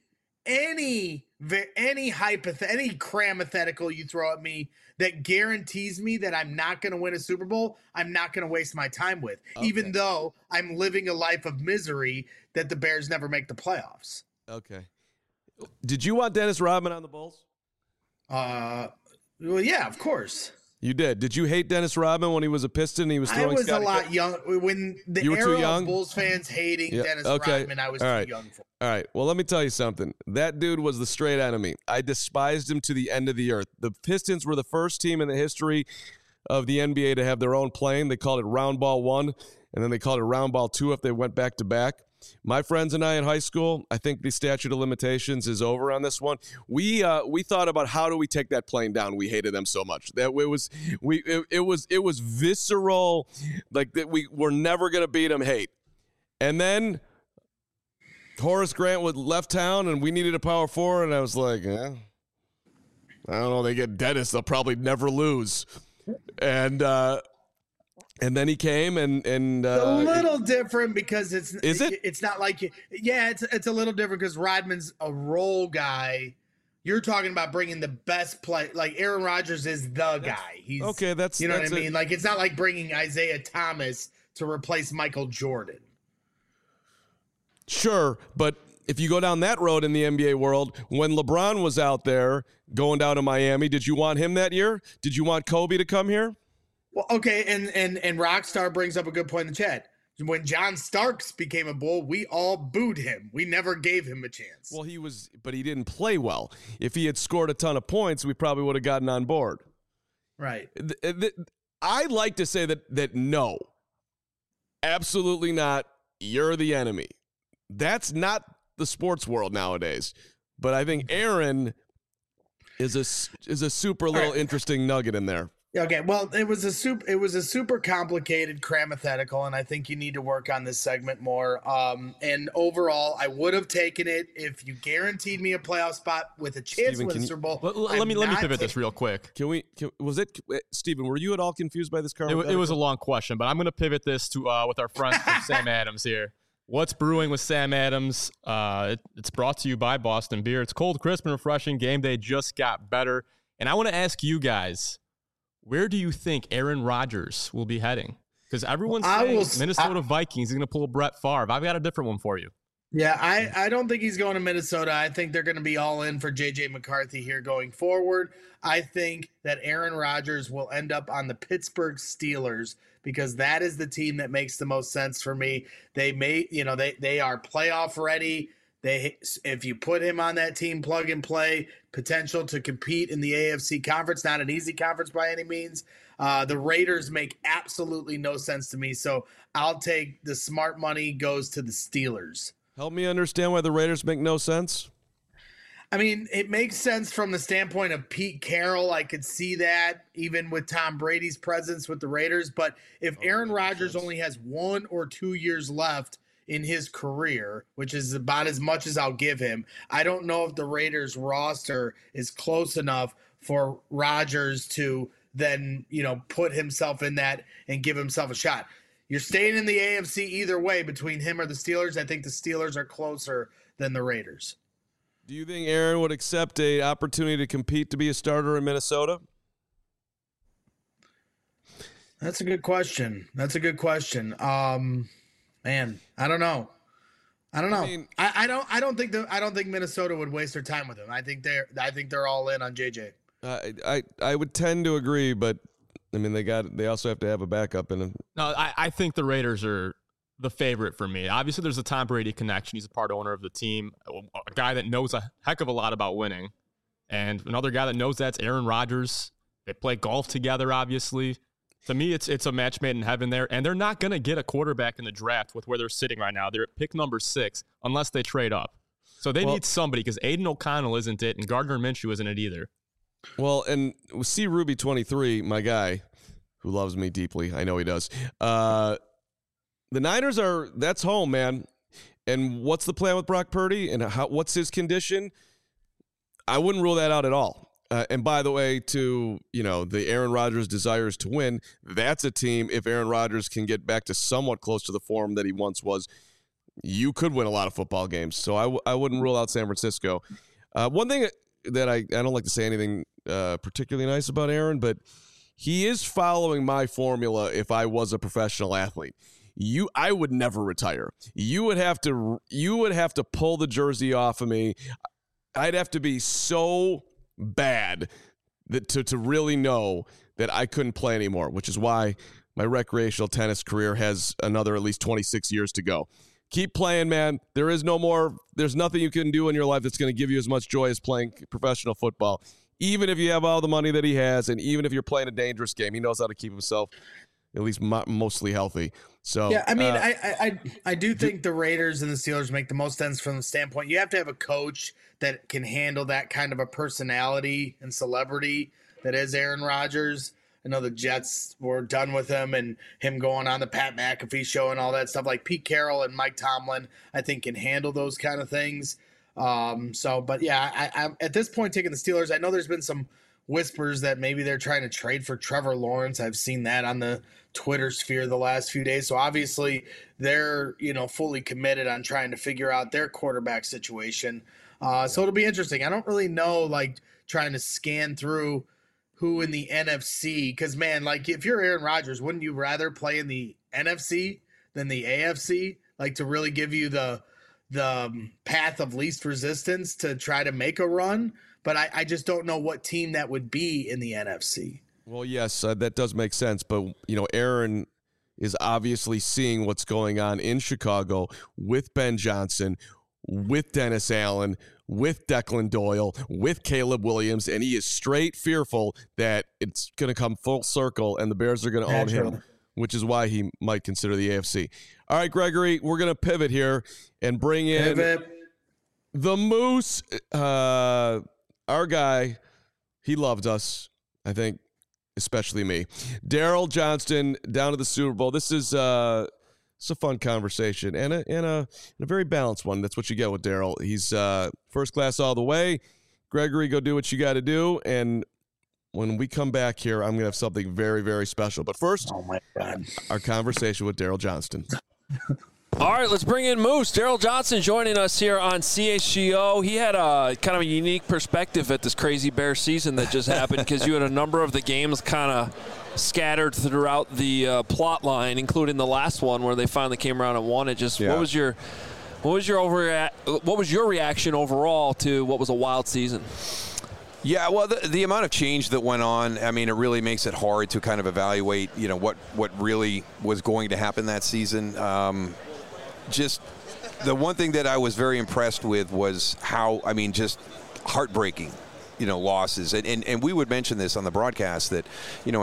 cramethetical you throw at me that guarantees me that I'm not going to win a Super Bowl, I'm not going to waste my time with, even though I'm living a life of misery that the Bears never make the playoffs. Okay. Did you want Dennis Rodman on the Bulls? Well, yeah, of course. You did. Did you hate Dennis Rodman when he was a Piston and he was throwing? I was a lot young when the era of Bulls fans hating Dennis Rodman. I was too young for. All right. Well, let me tell you something. That dude was the straight enemy. I despised him to the end of the earth. The Pistons were the first team in the history of the NBA to have their own plane. They called it Round Ball 1, and then they called it Round Ball 2 if they went back to back. My friends and I in high school, I think the statute of limitations is over on this one. We thought about how do we take that plane down. We hated them so much that it was visceral, like that we were never gonna beat them. Hate, and then Horace Grant left town, and we needed a power forward, and I was like, I don't know. They get Dennis, they'll probably never lose, and then he came and a little different because it's not like it's a little different because Rodman's a role guy. You're talking about bringing the best play, like Aaron Rodgers is the guy. He's okay. That's you know what I mean. Like it's not like bringing Isaiah Thomas to replace Michael Jordan. Sure, but if you go down that road in the NBA world, when LeBron was out there going down to Miami, did you want him that year? Did you want Kobe to come here? Well, okay, and Rockstar brings up a good point in the chat. When John Starks became a Bull, we all booed him. We never gave him a chance. Well, but he didn't play well. If he had scored a ton of points, we probably would have gotten on board. Right. I like to say that no, absolutely not. You're the enemy. That's not the sports world nowadays. But I think Aaron is a super little interesting nugget in there. Okay, well, it was a super complicated cramethetical, and I think you need to work on this segment more. And overall, I would have taken it if you guaranteed me a playoff spot with a chance to win the Super Bowl. Let me pivot this real quick. Steven, were you at all confused by this card? It was a long question, but I'm going to pivot this to with our friend from Sam Adams here. What's brewing with Sam Adams? It's brought to you by Boston Beer. It's cold, crisp, and refreshing. Game day just got better. And I want to ask you guys, where do you think Aaron Rodgers will be heading? Because everyone's saying Minnesota Vikings is going to pull Brett Favre. I've got a different one for you. Yeah, I don't think he's going to Minnesota. I think they're going to be all in for J.J. McCarthy here going forward. I think that Aaron Rodgers will end up on the Pittsburgh Steelers because that is the team that makes the most sense for me. They are playoff ready. If you put him on that team, plug and play, potential to compete in the AFC conference, not an easy conference by any means. The Raiders make absolutely no sense to me. So I'll take the smart money goes to the Steelers. Help me understand why the Raiders make no sense. I mean, it makes sense from the standpoint of Pete Carroll. I could see that even with Tom Brady's presence with the Raiders. But if Aaron Rodgers only has 1 or 2 years left in his career, which is about as much as I'll give him, I don't know if the Raiders roster is close enough for Rodgers to then, put himself in that and give himself a shot. You're staying in the AFC either way between him or the Steelers. I think the Steelers are closer than the Raiders. Do you think Aaron would accept an opportunity to compete to be a starter in Minnesota? That's a good question. Man, I don't know. I don't think Minnesota would waste their time with him. I think they're all in on JJ. I would tend to agree, but I mean they also have to have a backup in him. No, I think the Raiders are the favorite for me. Obviously, there's a Tom Brady connection. He's a part owner of the team, a guy that knows a heck of a lot about winning, and another guy that knows that's Aaron Rodgers. They play golf together, obviously. To me, it's a match made in heaven there, and they're not going to get a quarterback in the draft with where they're sitting right now. They're at pick number 6 unless they trade up. So they need somebody because Aiden O'Connell isn't it, and Gardner Minshew isn't it either. Well, and C. Ruby 23, my guy, who loves me deeply, I know he does. The Niners that's home, man. And what's the plan with Brock Purdy and what's his condition? I wouldn't rule that out at all. And by the way, to the Aaron Rodgers desires to win, that's a team. If Aaron Rodgers can get back to somewhat close to the form that he once was, you could win a lot of football games. So I wouldn't rule out San Francisco. One thing that I don't like to say anything particularly nice about Aaron, but he is following my formula. If I was a professional athlete, I would never retire. You would have to pull the jersey off of me. I'd have to be so bad that to really know that I couldn't play anymore, which is why my recreational tennis career has another at least 26 years to go. Keep playing, man. There's nothing you can do in your life that's going to give you as much joy as playing professional football. Even if you have all the money that he has, and even if you're playing a dangerous game, he knows how to keep himself at least mostly healthy. So yeah, I mean, I do think the Raiders and the Steelers make the most sense from the standpoint. You have to have a coach that can handle that kind of a personality and celebrity that is Aaron Rodgers. I know the Jets were done with him and him going on the Pat McAfee show and all that stuff. Like Pete Carroll and Mike Tomlin, I think can handle those kind of things. But yeah, I'm at this point taking the Steelers. I know there's been some whispers that maybe they're trying to trade for Trevor Lawrence. I've seen that on the Twitter sphere the last few days. So obviously they're, fully committed on trying to figure out their quarterback situation. So it'll be interesting. I don't really know, trying to scan through who in the NFC, because man, if you're Aaron Rodgers, wouldn't you rather play in the NFC than the AFC? To really give you the path of least resistance to try to make a run. But I just don't know what team that would be in the NFC. Well, yes, that does make sense. But, Aaron is obviously seeing what's going on in Chicago with Ben Johnson, with Dennis Allen, with Declan Doyle, with Caleb Williams, and he is straight fearful that it's going to come full circle and the Bears are going to own him, which is why he might consider the AFC. All right, Gregory, we're going to pivot here and bring in the Moose. Our guy, he loved us, I think, especially me. Daryl Johnston down to the Super Bowl. This is it's a fun conversation and a very balanced one. That's what you get with Daryl. He's first class all the way. Gregory, go do what you got to do. And when we come back here, I'm going to have something very, very special. But first, oh my God, our conversation with Daryl Johnston. All right, let's bring in Moose. Daryl Johnston joining us here on CHGO. He had a kind of a unique perspective at this crazy Bear season that just happened because you had a number of the games kind of scattered throughout the plot line, including the last one where they finally came around and won it. What was your What was your reaction overall to what was a wild season? Yeah, well, the amount of change that went on, I mean, it really makes it hard to kind of evaluate, what really was going to happen that season. Just the one thing that I was very impressed with was how, just heartbreaking, losses. And we would mention this on the broadcast that, in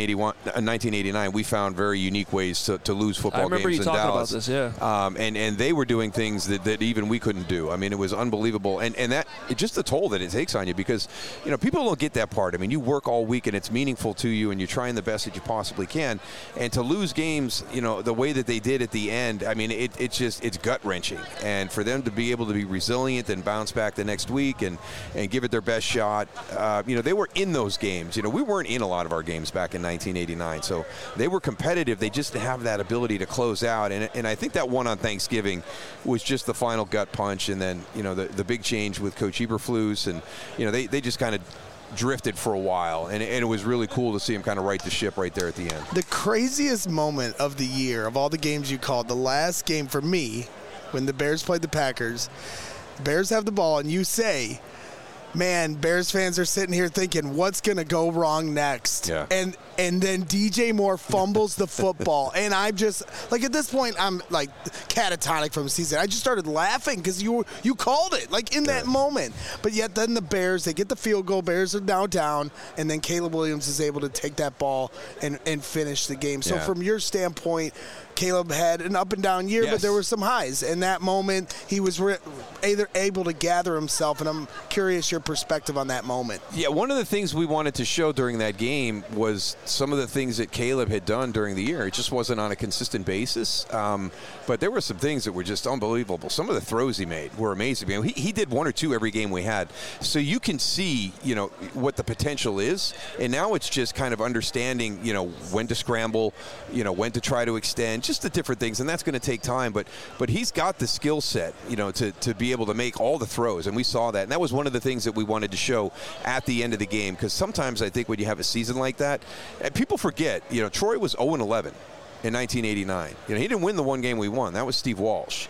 1989, we found very unique ways to lose football games in Dallas. I remember you talking about this, yeah. And they were doing things that even we couldn't do. I mean, it was unbelievable. And that, just the toll that it takes on you because, people don't get that part. I mean, you work all week and it's meaningful to you and you're trying the best that you possibly can. And to lose games, the way that they did at the end, I mean, it's gut-wrenching. And for them to be able to be resilient and bounce back the next week and give it their best shot, they were in those games. We weren't in a lot of our games back in 1989, so they were competitive. They just have that ability to close out, and I think that one on Thanksgiving was just the final gut punch, and then the big change with Coach Eberflus, and they just kind of drifted for a while, and it was really cool to see him kind of right the ship right there at the end. The craziest moment of the year, of all the games you called, the last game for me, when the Bears played the Packers, Bears have the ball, and you say, man, Bears fans are sitting here thinking, what's going to go wrong next? Yeah. And then DJ Moore fumbles the football. And I'm just, like, at this point, I'm, like, catatonic from the season. I just started laughing because you called it, like, in that moment. But yet then the Bears, they get the field goal. Bears are now down. And then Caleb Williams is able to take that ball and finish the game. So from your standpoint, Caleb had an up and down year, but there were some highs. In that moment, he was either able to gather himself, and I'm curious your perspective on that moment. Yeah, one of the things we wanted to show during that game was some of the things that Caleb had done during the year. It just wasn't on a consistent basis, but there were some things that were just unbelievable. Some of the throws he made were amazing. I mean, he did one or two every game we had, so you can see, what the potential is, and now it's just kind of understanding, when to scramble, when to try to extend, just the different things, and that's going to take time, but he's got the skill set, to be able to make all the throws, and we saw that, and that was one of the things that we wanted to show at the end of the game, because sometimes I think when you have a season like that, and people forget, Troy was 0-11 in 1989. He didn't win the one game we won. That was Steve Walsh.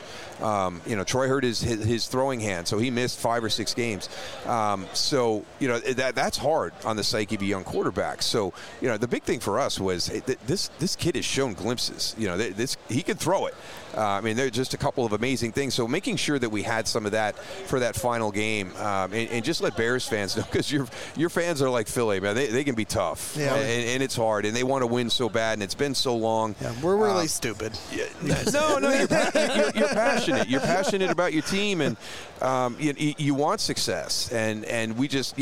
Troy hurt his throwing hand, so he missed 5 or 6 games. So that's hard on the psyche of a young quarterback. So the big thing for us was this kid has shown glimpses. He can throw it. There are just a couple of amazing things. So making sure that we had some of that for that final game, and just let Bears fans know, because your fans are like Philly, man. They can be tough, and it's hard, and they want to win so bad, and it's been so long. Yeah, we're really stupid. No, you're passionate. You're passionate about your team, and you want success, and we just,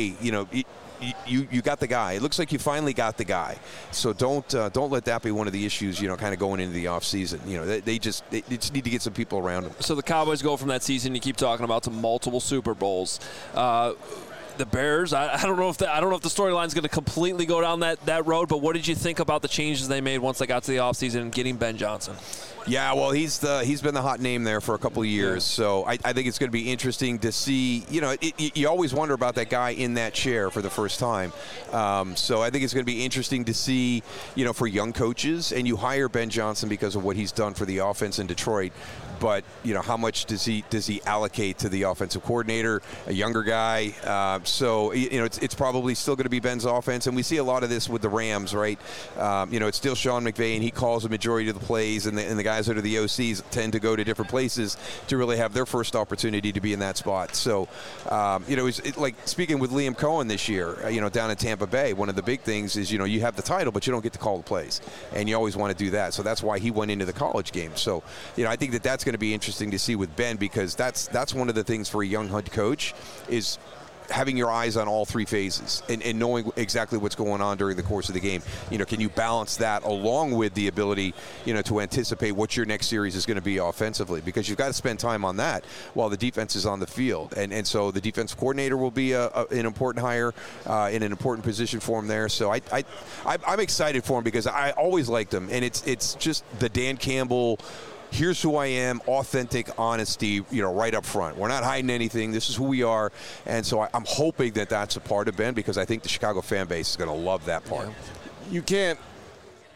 you got the guy. It looks like you finally got the guy. So don't let that be one of the issues, kind of going into the offseason. They just need to get some people around them. So the Cowboys go from that season you keep talking about to multiple Super Bowls. The Bears, I don't know if the storyline is going to completely go down that road, but what did you think about the changes they made once they got to the offseason and getting Ben Johnson? Yeah, well, he's been the hot name there for a couple of years, so I think it's going to be interesting to see. You always wonder about that guy in that chair for the first time. So I think it's going to be interesting to see, for young coaches, and you hire Ben Johnson because of what he's done for the offense in Detroit. But how much does he allocate to the offensive coordinator, a younger guy? So it's probably still going to be Ben's offense, and we see a lot of this with the Rams, right? It's still Sean McVay, and he calls the majority of the plays, and the guys that are the OCs tend to go to different places to really have their first opportunity to be in that spot. So it's like speaking with Liam Cohen this year, down in Tampa Bay. One of the big things is you have the title, but you don't get to call the plays, and you always want to do that. So that's why he went into the college game. So I think that's going to be interesting to see with Ben, because that's one of the things for a young head coach is having your eyes on all three phases and knowing exactly what's going on during the course of the game. Can you balance that along with the ability, to anticipate what your next series is going to be offensively, because you've got to spend time on that while the defense is on the field. And so the defensive coordinator will be an important hire in an important position for him there. So I'm excited for him because I always liked him. And it's just the Dan Campbell, here's who I am, authentic honesty, right up front. We're not hiding anything. This is who we are. And so I'm hoping that that's a part of Ben, because I think the Chicago fan base is going to love that part. You can't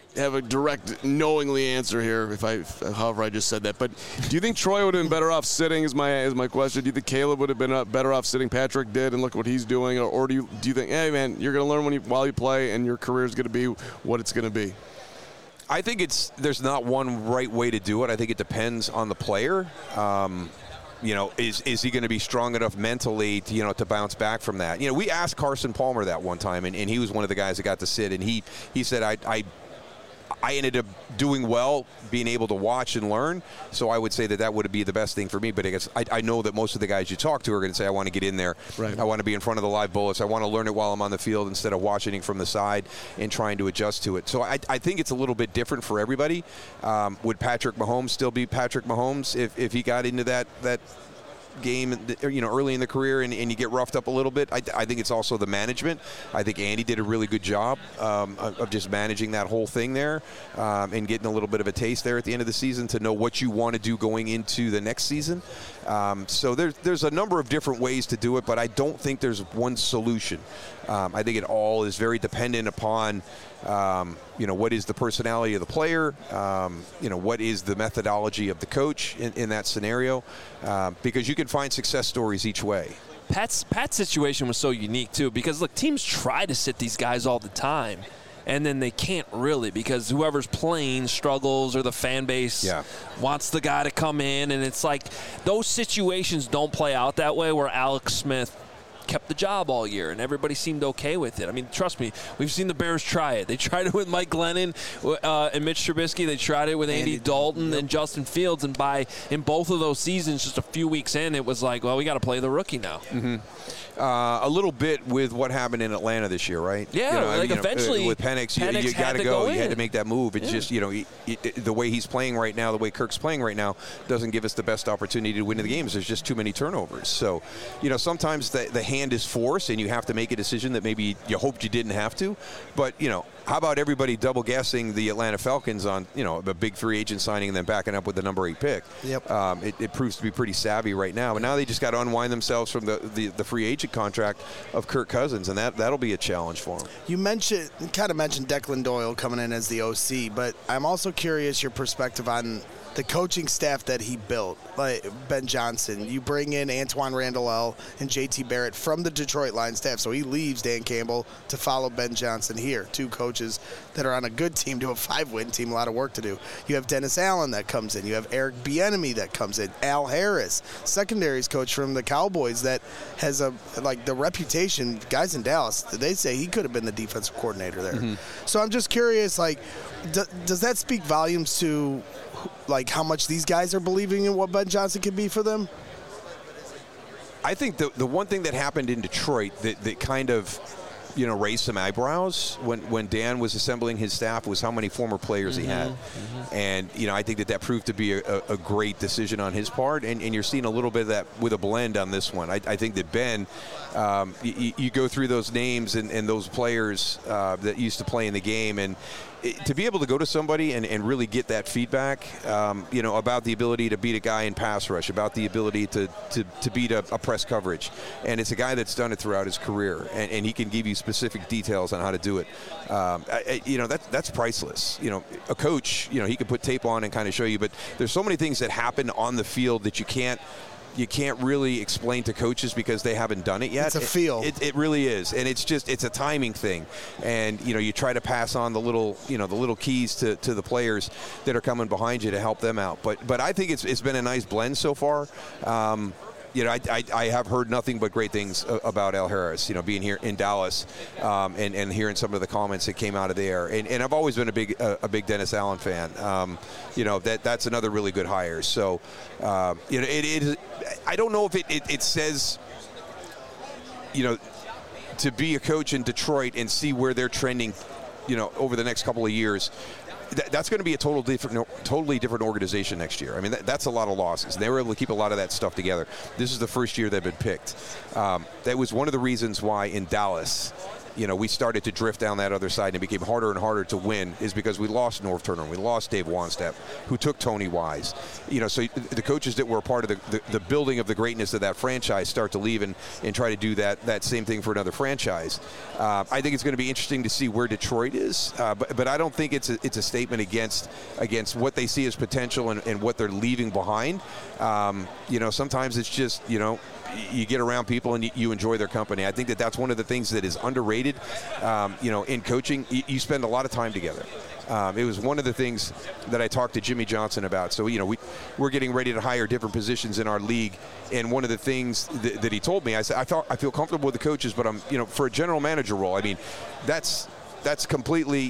have a direct, knowingly answer here, however I just said that. But do you think Troy would have been better off sitting? Is my question. Do you think Caleb would have been better off sitting? Patrick did, and look what he's doing. Or do you think, hey man, you're going to learn while you play, and your career is going to be what it's going to be? I think there's not one right way to do it. I think it depends on the player. Is he going to be strong enough mentally to bounce back from that? We asked Carson Palmer that one time, and he was one of the guys that got to sit, and he said, I ended up doing well, being able to watch and learn. So I would say that would be the best thing for me. But I guess I know that most of the guys you talk to are going to say, I want to get in there. Right. I want to be in front of the live bullets. I want to learn it while I'm on the field instead of watching it from the side and trying to adjust to it. So I think it's a little bit different for everybody. Would Patrick Mahomes still be Patrick Mahomes if he got into that game early in the career and you get roughed up a little bit? I think it's also the management. I think Andy did a really good job of just managing that whole thing there and getting a little bit of a taste there at the end of the season to know what you want to do going into the next season. So there's a number of different ways to do it, but I don't think there's one solution. I think it all is very dependent upon what is the personality of the player, what is the methodology of the coach in that scenario, because you can find success stories each way. Pat's situation was so unique, too, because, look, teams try to sit these guys all the time, and then they can't really because whoever's playing struggles or the fan base wants the guy to come in, and it's like those situations don't play out that way where Alex Smith kept the job all year, and everybody seemed okay with it. I mean, trust me, we've seen the Bears try it. They tried it with Mike Glennon and Mitch Trubisky. They tried it with Andy Dalton and Justin Fields, and in both of those seasons, just a few weeks in, it was like, well, we got to play the rookie now. Mm-hmm. A little bit with what happened in Atlanta this year, right? Yeah, eventually with Penix you got to go. You had to make that move. It's just the way he's playing right now, the way Kirk's playing right now, doesn't give us the best opportunity to win the games. There's just too many turnovers. So, sometimes the hand is forced, and you have to make a decision that maybe you hoped you didn't have to. But how about everybody double guessing the Atlanta Falcons on a big free agent signing and then backing up with the number 8 pick? Yep. It proves to be pretty savvy right now. But now they just got to unwind themselves from the free agent contract of Kirk Cousins, and that'll be a challenge for them. You kind of mentioned Declan Doyle coming in as the OC, but I'm also curious your perspective on the coaching staff that he built, like Ben Johnson. You bring in Antoine Randall and JT Barrett from the Detroit Lions staff, so he leaves Dan Campbell to follow Ben Johnson here. 2 coaches that are on a good team to a 5-win team, a lot of work to do. You have Dennis Allen that comes in. You have Eric Bieniemy that comes in. Al Harris, secondaries coach from the Cowboys that has the reputation. Guys in Dallas, they say he could have been the defensive coordinator there. Mm-hmm. So I'm just curious, does that speak volumes to how much these guys are believing in what Ben Johnson can be for them? I think the one thing that happened in Detroit that kind of raised some eyebrows when Dan was assembling his staff was how many former players he had. Mm-hmm. And, I think that proved to be a great decision on his part. And you're seeing a little bit of that with a blend on this one. I think that Ben, you go through those names and those players that used to play in the game, and to be able to go to somebody and really get that feedback, about the ability to beat a guy in pass rush, about the ability to beat a press coverage. And it's a guy that's done it throughout his career, and he can give you specific details on how to do it. That's priceless. A coach, he can put tape on and kind of show you, but there's so many things that happen on the field that you can't really explain to coaches because they haven't done it yet. It's a feel. It really is, and it's a timing thing. And you try to pass on the little keys to the players that are coming behind you to help them out. But I think it's been a nice blend so far. I have heard nothing but great things about Al Harris, being here in Dallas and hearing some of the comments that came out of there. And I've always been a big Dennis Allen fan. That's another really good hire. So, it is. I don't know if it says, to be a coach in Detroit and see where they're trending, over the next couple of years. That's going to be a totally different organization next year. I mean, that's a lot of losses. And they were able to keep a lot of that stuff together. This is the first year they've been picked. That was one of the reasons why in Dallas we started to drift down that other side, and it became harder and harder to win, is because we lost Norv Turner, we lost Dave Wannstedt, who took Tony Wise. So the coaches that were a part of the building of the greatness of that franchise start to leave and try to do that same thing for another franchise. I think it's going to be interesting to see where Detroit is, but I don't think it's a statement against what they see as potential and what they're leaving behind. Sometimes it's just, you get around people and you enjoy their company. I think that that's one of the things that is underrated. In coaching, you spend a lot of time together. It was one of the things that I talked to Jimmy Johnson about. So, we're getting ready to hire different positions in our league. And one of the things that he told me, I said, I feel comfortable with the coaches, but I'm, for a general manager role, I mean, that's completely,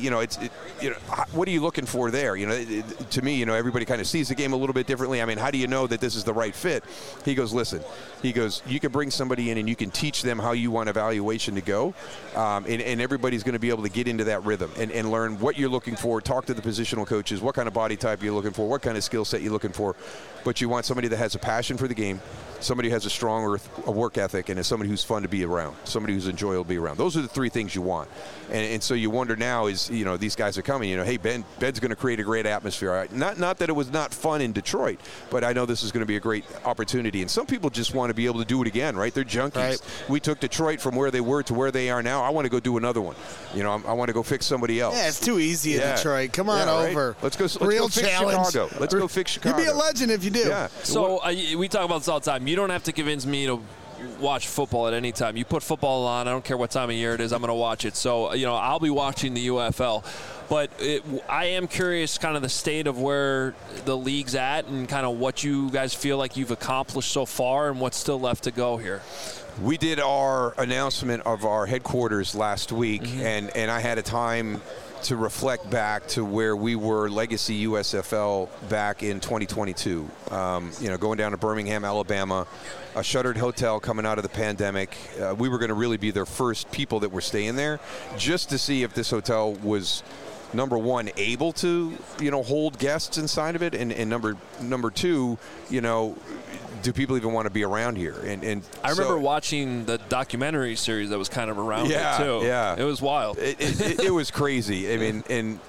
what are you looking for there? To me, everybody kind of sees the game a little bit differently. I mean, how do you know that this is the right fit? He goes, listen, you can bring somebody in and you can teach them how you want evaluation to go. And everybody's going to be able to get into that rhythm and learn what you're looking for, talk to the positional coaches, what kind of body type you're looking for, what kind of skill set you're looking for. But you want somebody that has a passion for the game, somebody who has a strong work ethic, and is somebody who's fun to be around, somebody who's enjoyable to be around. Those are the three things you want. And so you wonder now is, these guys are coming, hey, Ben's going to create a great atmosphere. Not that it was not fun in Detroit, but I know this is going to be a great opportunity. And some people just want to be able to do it again, right? They're junkies. Right. We took Detroit from where they were to where they are now. I want to go do another one. I want to go fix somebody else. Yeah, it's too easy in Detroit. Come on over. Let's go Real fix challenge. Chicago. Let's go fix Chicago. You'd be a legend if you do. Yeah. So we talk about this all the time. You don't have to convince me to watch football at any time. You put football on, I don't care what time of year it is, I'm going to watch it. So, I'll be watching the UFL. But I am curious kind of the state of where the league's at and kind of what you guys feel like you've accomplished so far and what's still left to go here. We did our announcement of our headquarters last week, and I had a time to reflect back to where we were Legacy USFL back in 2022. Going down to Birmingham, Alabama, a shuttered hotel coming out of the pandemic. We were going to really be their first people that were staying there, just to see if this hotel was, number one, able to, hold guests inside of it, and number two, do people even want to be around here? And I remember watching the documentary series that was kind of around it too. Yeah, it was wild. It was crazy. I mean, and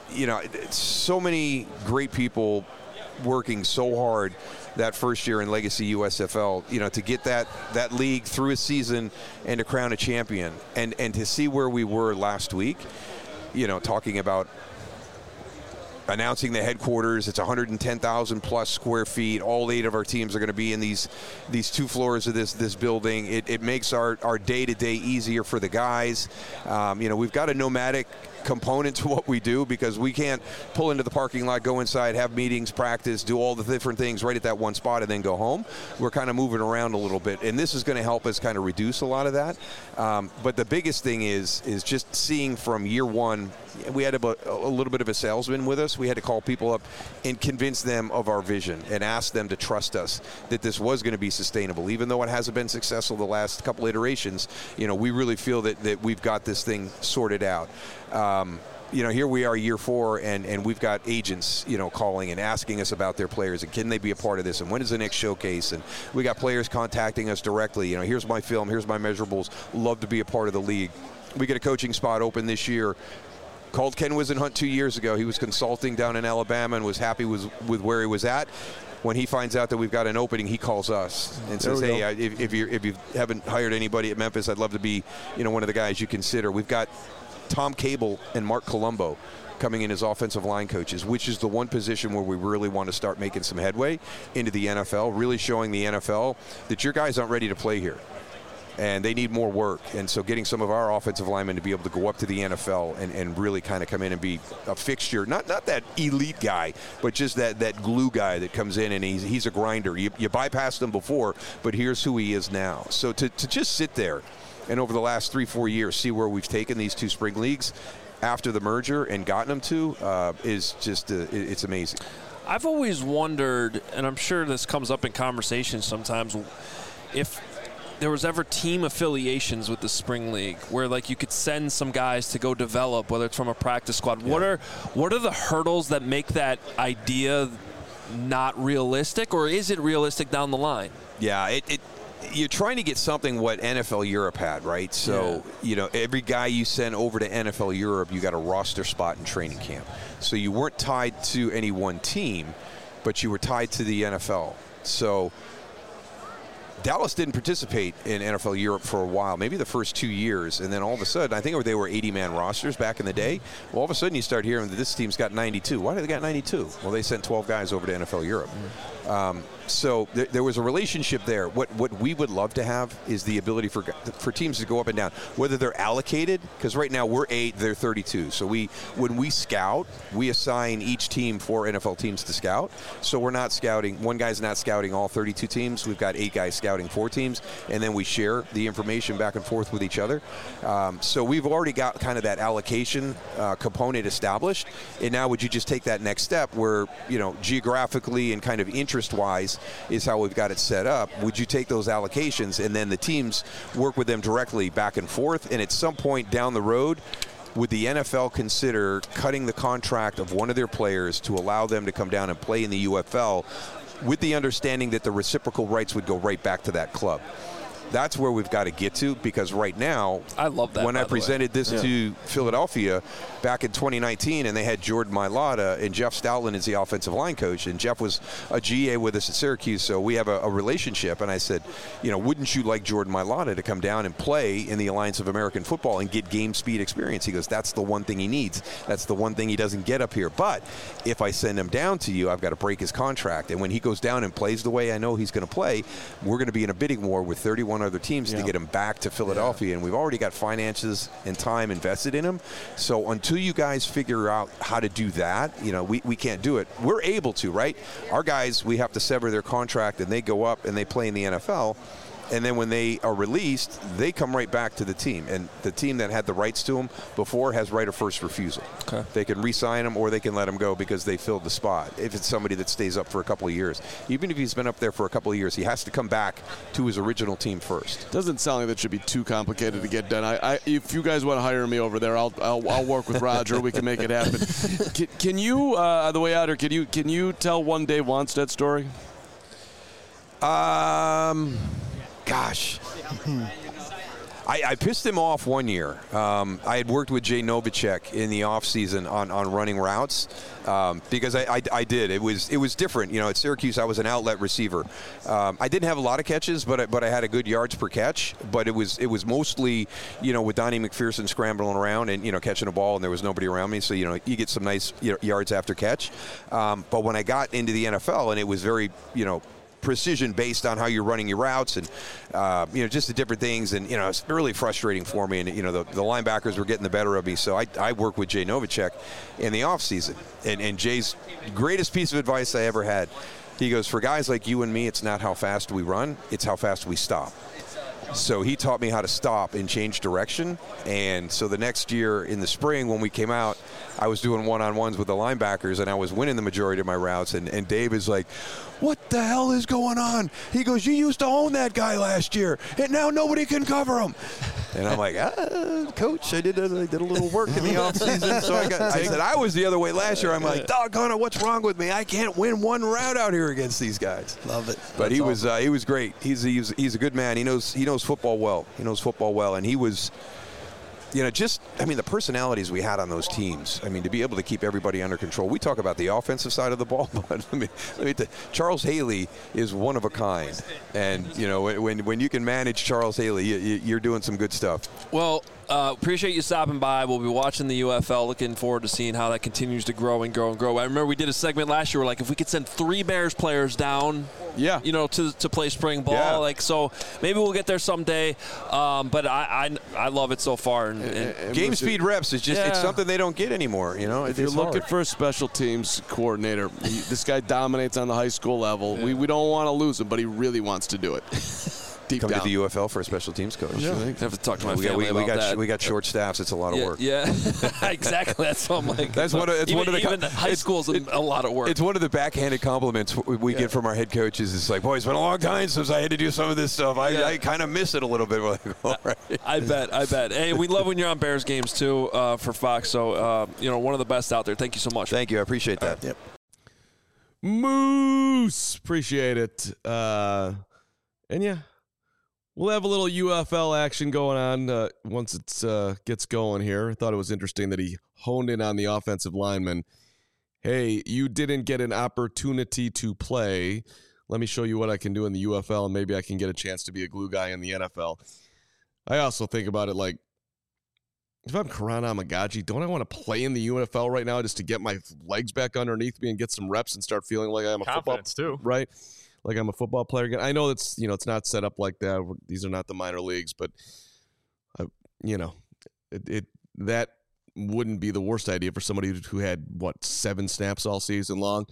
so many great people working so hard that first year in Legacy USFL, to get that league through a season and to crown a champion, and to see where we were last week, talking about announcing the headquarters. It's 110,000 plus square feet. All 8 of our teams are going to be in these 2 floors of this building. It makes our day-to-day easier for the guys. We've got a nomadic component to what we do because we can't pull into the parking lot, go inside, have meetings, practice, do all the different things right at that one spot and then go home. We're kind of moving around a little bit, and this is going to help us kind of reduce a lot of that. But the biggest thing is just seeing from year one, we had a little bit of a salesman with us. We had to call people up and convince them of our vision and ask them to trust us that this was going to be sustainable. Even though it hasn't been successful the last couple iterations, we really feel that we've got this thing sorted out. Here we are year 4 and we've got agents, calling and asking us about their players and can they be a part of this and when is the next showcase, and we got players contacting us directly. Here's my film, here's my measurables, love to be a part of the league. We get a coaching spot open this year. Called Ken Wisenhunt 2 years ago. He was consulting down in Alabama and was happy with where he was at. When he finds out that we've got an opening, he calls us and says, hey, if you haven't hired anybody at Memphis, I'd love to be one of the guys you consider. We've got Tom Cable and Mark Colombo coming in as offensive line coaches, which is the one position where we really want to start making some headway into the NFL, really showing the NFL that your guys aren't ready to play here. And they need more work. And so getting some of our offensive linemen to be able to go up to the NFL and really kind of come in and be a fixture, not that elite guy, but just that glue guy that comes in and he's a grinder. You bypassed him before, but here's who he is now. So to just sit there and over the last 3-4 years see where we've taken these 2 spring leagues after the merger and gotten them to is just it's amazing. I've always wondered, and I'm sure this comes up in conversations sometimes, if there was ever team affiliations with the spring league where you could send some guys to go develop, whether it's from a practice squad. Yeah. What are the hurdles that make that idea not realistic, or is it realistic down the line? Yeah, you're trying to get something what NFL Europe had, right? So, every guy you send over to NFL Europe, you got a roster spot in training camp. So you weren't tied to any one team, but you were tied to the NFL. So Dallas didn't participate in NFL Europe for a while, maybe the first 2 years, and then all of a sudden, I think they were 80-man rosters back in the day. Well, all of a sudden you start hearing that this team's got 92. Why do they got 92? Well, they sent 12 guys over to NFL Europe. So there was a relationship there. What we would love to have is the ability for teams to go up and down, whether they're allocated, because right now we're 8, they're 32. So when we scout, we assign each team 4 NFL teams to scout. So we're not scouting, one guy's not scouting all 32 teams. We've got 8 guys scouting 4 teams, and then we share the information back and forth with each other. So we've already got kind of that allocation component established. And now would you just take that next step where, geographically and kind of interest-wise is how we've got it set up. Would you take those allocations and then the teams work with them directly back and forth? And at some point down the road, would the NFL consider cutting the contract of one of their players to allow them to come down and play in the UFL with the understanding that the reciprocal rights would go right back to that club? That's where we've got to get to, because right now, I love that. When I presented this to Philadelphia back in 2019, and they had Jordan Mailata and Jeff Stoutland as the offensive line coach, and Jeff was a GA with us at Syracuse, so we have a relationship. And I said, wouldn't you like Jordan Mailata to come down and play in the Alliance of American Football and get game speed experience? He goes, that's the one thing he needs. That's the one thing he doesn't get up here. But if I send him down to you, I've got to break his contract. And when he goes down and plays the way I know he's going to play, we're going to be in a bidding war with 31 other teams to get him back to Philadelphia, and we've already got finances and time invested in him. So until you guys figure out how to do that, we can't do it. We're able to, right? Our guys, we have to sever their contract, and they go up and they play in the NFL. And then when they are released, they come right back to the team. And the team that had the rights to them before has right of first refusal. Okay. They can re-sign them or they can let them go because they filled the spot. If it's somebody that stays up for a couple of years. Even if he's been up there for a couple of years, he has to come back to his original team first. Doesn't sound like that should be too complicated to get done. If you guys want to hire me over there, I'll work with Roger. We can make it happen. Can you, on the way out here, can you tell one Dave Wannstedt story? Gosh. I pissed him off one year. I had worked with Jay Novacek in the offseason on running routes because I did. It was different. At Syracuse, I was an outlet receiver. I didn't have a lot of catches, but I had a good yards per catch. But it was mostly, with Donnie McPherson scrambling around and, catching a ball and there was nobody around me. So, you get some nice yards after catch. But when I got into the NFL, and it was very, precision based on how you're running your routes and just the different things, and it's really frustrating for me, and the linebackers were getting the better of me, so I worked with Jay Novacek in the offseason, and Jay's greatest piece of advice I ever had, he goes, for guys like you and me, it's not how fast we run, it's how fast we stop. So he taught me how to stop and change direction. And so the next year in the spring when we came out, I was doing one-on-ones with the linebackers, and I was winning the majority of my routes. And Dave is like, what the hell is going on? He goes, you used to own that guy last year, and now nobody can cover him. And I'm like, Coach, I did a little work in the offseason. So I said, I was the other way last year. I'm like, doggone it, what's wrong with me? I can't win one route out here against these guys. Love it. But he was great. He's a good man. He knows football well. And he was, the personalities we had on those teams. To be able to keep everybody under control. We talk about the offensive side of the ball, but Charles Haley is one of a kind. And, when you can manage Charles Haley, you're doing some good stuff. Well, appreciate you stopping by. We'll be watching the UFL. Looking forward to seeing how that continues to grow and grow and grow. I remember we did a segment last year where, if we could send 3 Bears players down, to play spring ball. Yeah. So maybe we'll get there someday. But I love it so far. And game speed reps is just it's something they don't get anymore. If you're looking for a special teams coordinator, this guy dominates on the high school level. Yeah. We don't want to lose him, but he really wants to do it. Come down to the UFL for a special teams coach. Yeah. I have to talk to my family about that. We got short staffs. It's a lot of work. Yeah, exactly. That's what I'm like. That's one of the high school's a lot of work. It's one of the backhanded compliments we get from our head coaches. It's like, boy, it's been a long time since I had to do some of this stuff. I kind of miss it a little bit. We're like, all right. I bet. Hey, we love when you're on Bears games too for Fox. So one of the best out there. Thank you so much. Thank you. I appreciate that. Yep. Moose, appreciate it. And yeah. We'll have a little UFL action going on once it gets going here. I thought it was interesting that he honed in on the offensive lineman. Hey, you didn't get an opportunity to play. Let me show you what I can do in the UFL, and maybe I can get a chance to be a glue guy in the NFL. I also think about it like, if I'm Karan Amagaji, don't I want to play in the UFL right now just to get my legs back underneath me and get some reps and start feeling like I'm a Confidence football too, right? Like I'm a football player again. I know it's it's not set up like that. These are not the minor leagues, but that wouldn't be the worst idea for somebody who had 7 snaps all season long.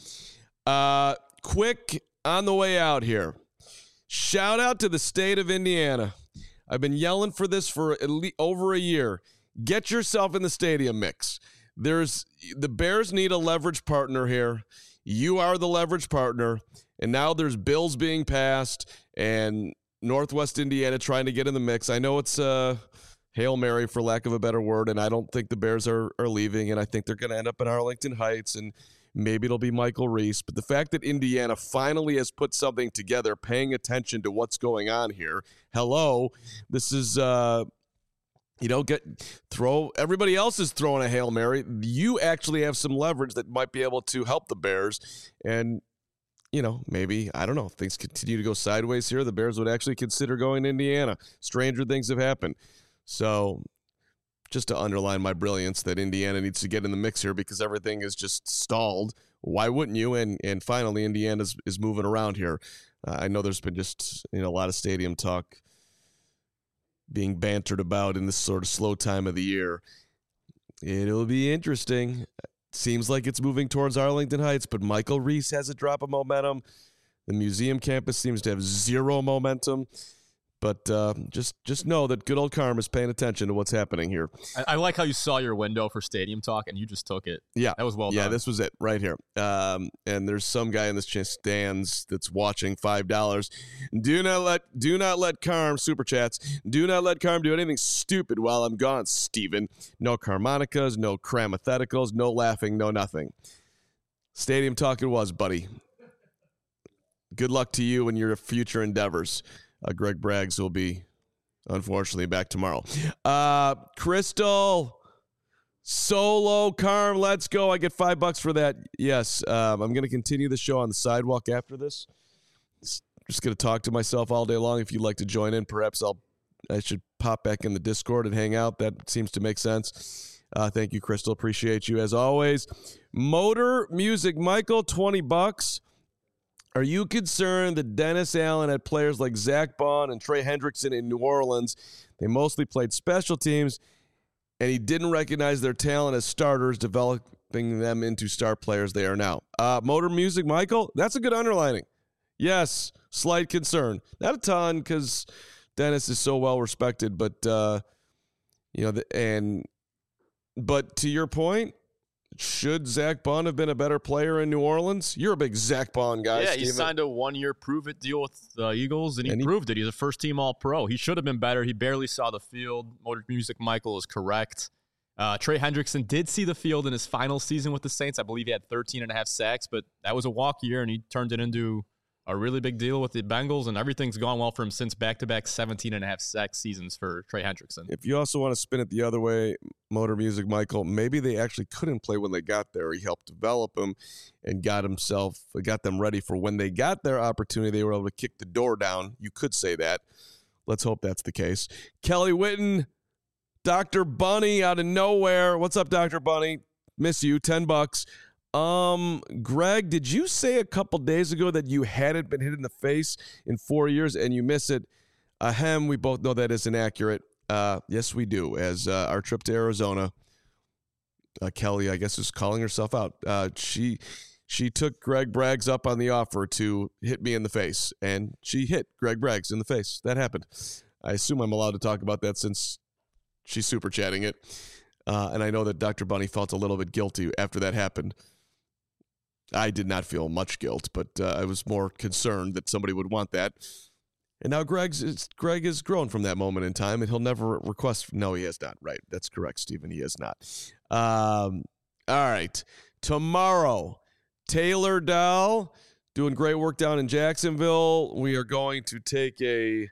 Quick on the way out here. Shout out to the state of Indiana. I've been yelling for this for at least over a year. Get yourself in the stadium mix. The Bears need a leverage partner here. You are the leverage partner. And now there's bills being passed and Northwest Indiana trying to get in the mix. I know it's Hail Mary, for lack of a better word, and I don't think the Bears are leaving, and I think they're going to end up in Arlington Heights, and maybe it'll be Michael Reese. But the fact that Indiana finally has put something together, paying attention to what's going on here, this is everybody else is throwing a Hail Mary. You actually have some leverage that might be able to help the Bears, and maybe, I don't know, if things continue to go sideways here, the Bears would actually consider going to Indiana. Stranger things have happened. So just to underline my brilliance that Indiana needs to get in the mix here because everything is just stalled. Why wouldn't you? And finally, Indiana is moving around here. I know there's been just a lot of stadium talk being bantered about in this sort of slow time of the year. It'll be interesting. Seems like it's moving towards Arlington Heights, but Michael Reese has a drop of momentum. The museum campus seems to have zero momentum. But just know that good old Carm is paying attention to what's happening here. I like how you saw your window for stadium talk, and you just took it. Yeah. That was well done. Yeah, this was it right here. And there's some guy in this stands that's watching $5. Do not let Carm, super chats, do not let Carm do anything stupid while I'm gone, Steven. No Carmonicas, no Cramatheticals, no laughing, no nothing. Stadium talk it was, buddy. Good luck to you and your future endeavors. Greg Braggs will be, unfortunately, back tomorrow. Crystal, solo, Carm, let's go. I get $5 for that. Yes, I'm going to continue the show on the sidewalk after this. Just going to talk to myself all day long. If you'd like to join in, perhaps I should pop back in the Discord and hang out. That seems to make sense. Thank you, Crystal. Appreciate you as always. Motor Music Michael, $20. Are you concerned that Dennis Allen had players like Zach Bond and Trey Hendrickson in New Orleans? They mostly played special teams, and he didn't recognize their talent as starters, developing them into star players they are now. Motor Music, Michael, that's a good underlining. Yes, slight concern. Not a ton because Dennis is so well respected, but but to your point, should Zach Bond have been a better player in New Orleans? You're a big Zach Bond guy, Yeah, Steven. he signed a 1-year prove-it deal with the Eagles, and he proved it. He's a first-team All-Pro. He should have been better. He barely saw the field. Motor Music Michael is correct. Trey Hendrickson did see the field in his final season with the Saints. I believe he had 13.5 sacks, but that was a walk year, and he turned it into a really big deal with the Bengals, and everything's gone well for him since back-to-back 17.5 sack seasons for Trey Hendrickson. If you also want to spin it the other way, Motor Music Michael, maybe they actually couldn't play when they got there. He helped develop them and got them ready for when they got their opportunity. They were able to kick the door down. You could say that. Let's hope that's the case. Kelly Witten, Dr. Bunny out of nowhere. What's up, Dr. Bunny? Miss you. $10. Greg, did you say a couple days ago that you hadn't been hit in the face in 4 years and you miss it? We both know that is inaccurate. Yes, we do. As our trip to Arizona, Kelly, I guess, is calling herself out. She took Greg Braggs up on the offer to hit me in the face, and she hit Greg Braggs in the face. That happened. I assume I'm allowed to talk about that since she's super chatting it. And I know that Dr. Bunny felt a little bit guilty after that happened. I did not feel much guilt, but I was more concerned that somebody would want that. And now Greg has grown from that moment in time, and he'll never request. No, he has not. Right. That's correct, Stephen. He has not. All right. Tomorrow, Taylor Dahl doing great work down in Jacksonville. We are going to take a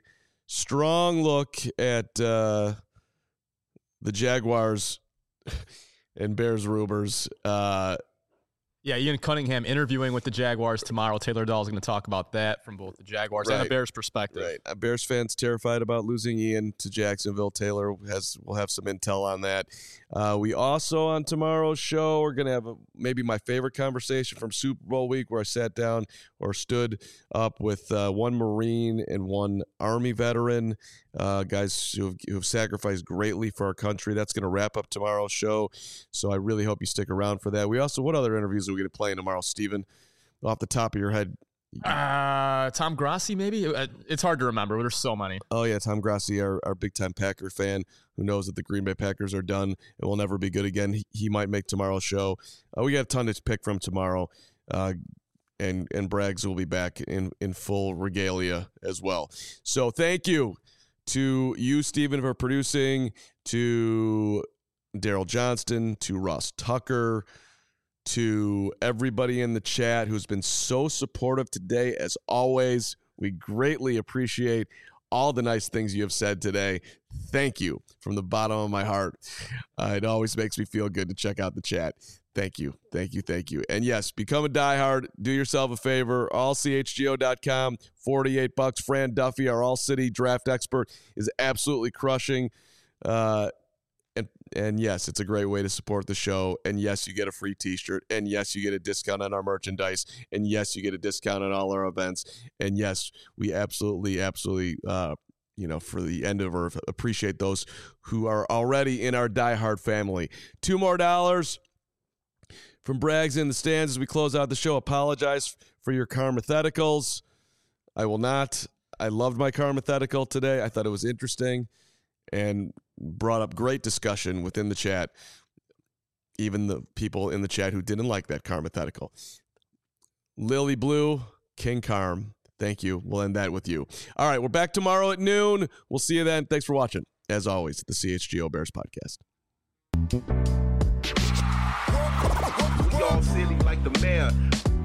strong look at the Jaguars and Bears rumors. Yeah, Ian Cunningham interviewing with the Jaguars tomorrow. Taylor Dahl is going to talk about that from both the Jaguars and the Bears perspective. Right. Bears fans terrified about losing Ian to Jacksonville. Taylor will have some intel on that. We also, on tomorrow's show, we're going to have maybe my favorite conversation from Super Bowl week, where I sat down or stood up with one Marine and one Army veteran, guys who have sacrificed greatly for our country. That's going to wrap up tomorrow's show, so I really hope you stick around for that. We also, what other interviews are we going to play tomorrow, Steven? Off the top of your head. Tom Grassi, maybe? It's hard to remember, but there's so many. Oh, yeah, Tom Grassi, our big-time Packer fan, who knows that the Green Bay Packers are done and will never be good again. He might make tomorrow's show. We got a ton to pick from tomorrow, and Braggs will be back in full regalia as well. So thank you to you, Steven, for producing, to Daryl Johnston, to Ross Tucker, to everybody in the chat who's been so supportive today. As always, we greatly appreciate all the nice things you have said today. Thank you from the bottom of my heart. It always makes me feel good to check out the chat. Thank you. And yes, become a diehard. Do yourself a favor. AllCHGO.com, $48. Fran Duffy, our All-City draft expert, is absolutely crushing. And yes, it's a great way to support the show. And yes, you get a free t-shirt. And yes, you get a discount on our merchandise. And yes, you get a discount on all our events. And yes, we absolutely, for the end of Earth, appreciate those who are already in our diehard family. $2 more from Braggs in the stands as we close out the show. Apologize for your Carmatheticals. I will not. I loved my Carmathetical today. I thought it was interesting and brought up great discussion within the chat, even the people in the chat who didn't like that Carmathetical. Lily Blue, King Carm, thank you. We'll end that with you. All right, we're back tomorrow at noon. We'll see you then. Thanks for watching. As always, the CHGO Bears Podcast. We all silly like the mayor.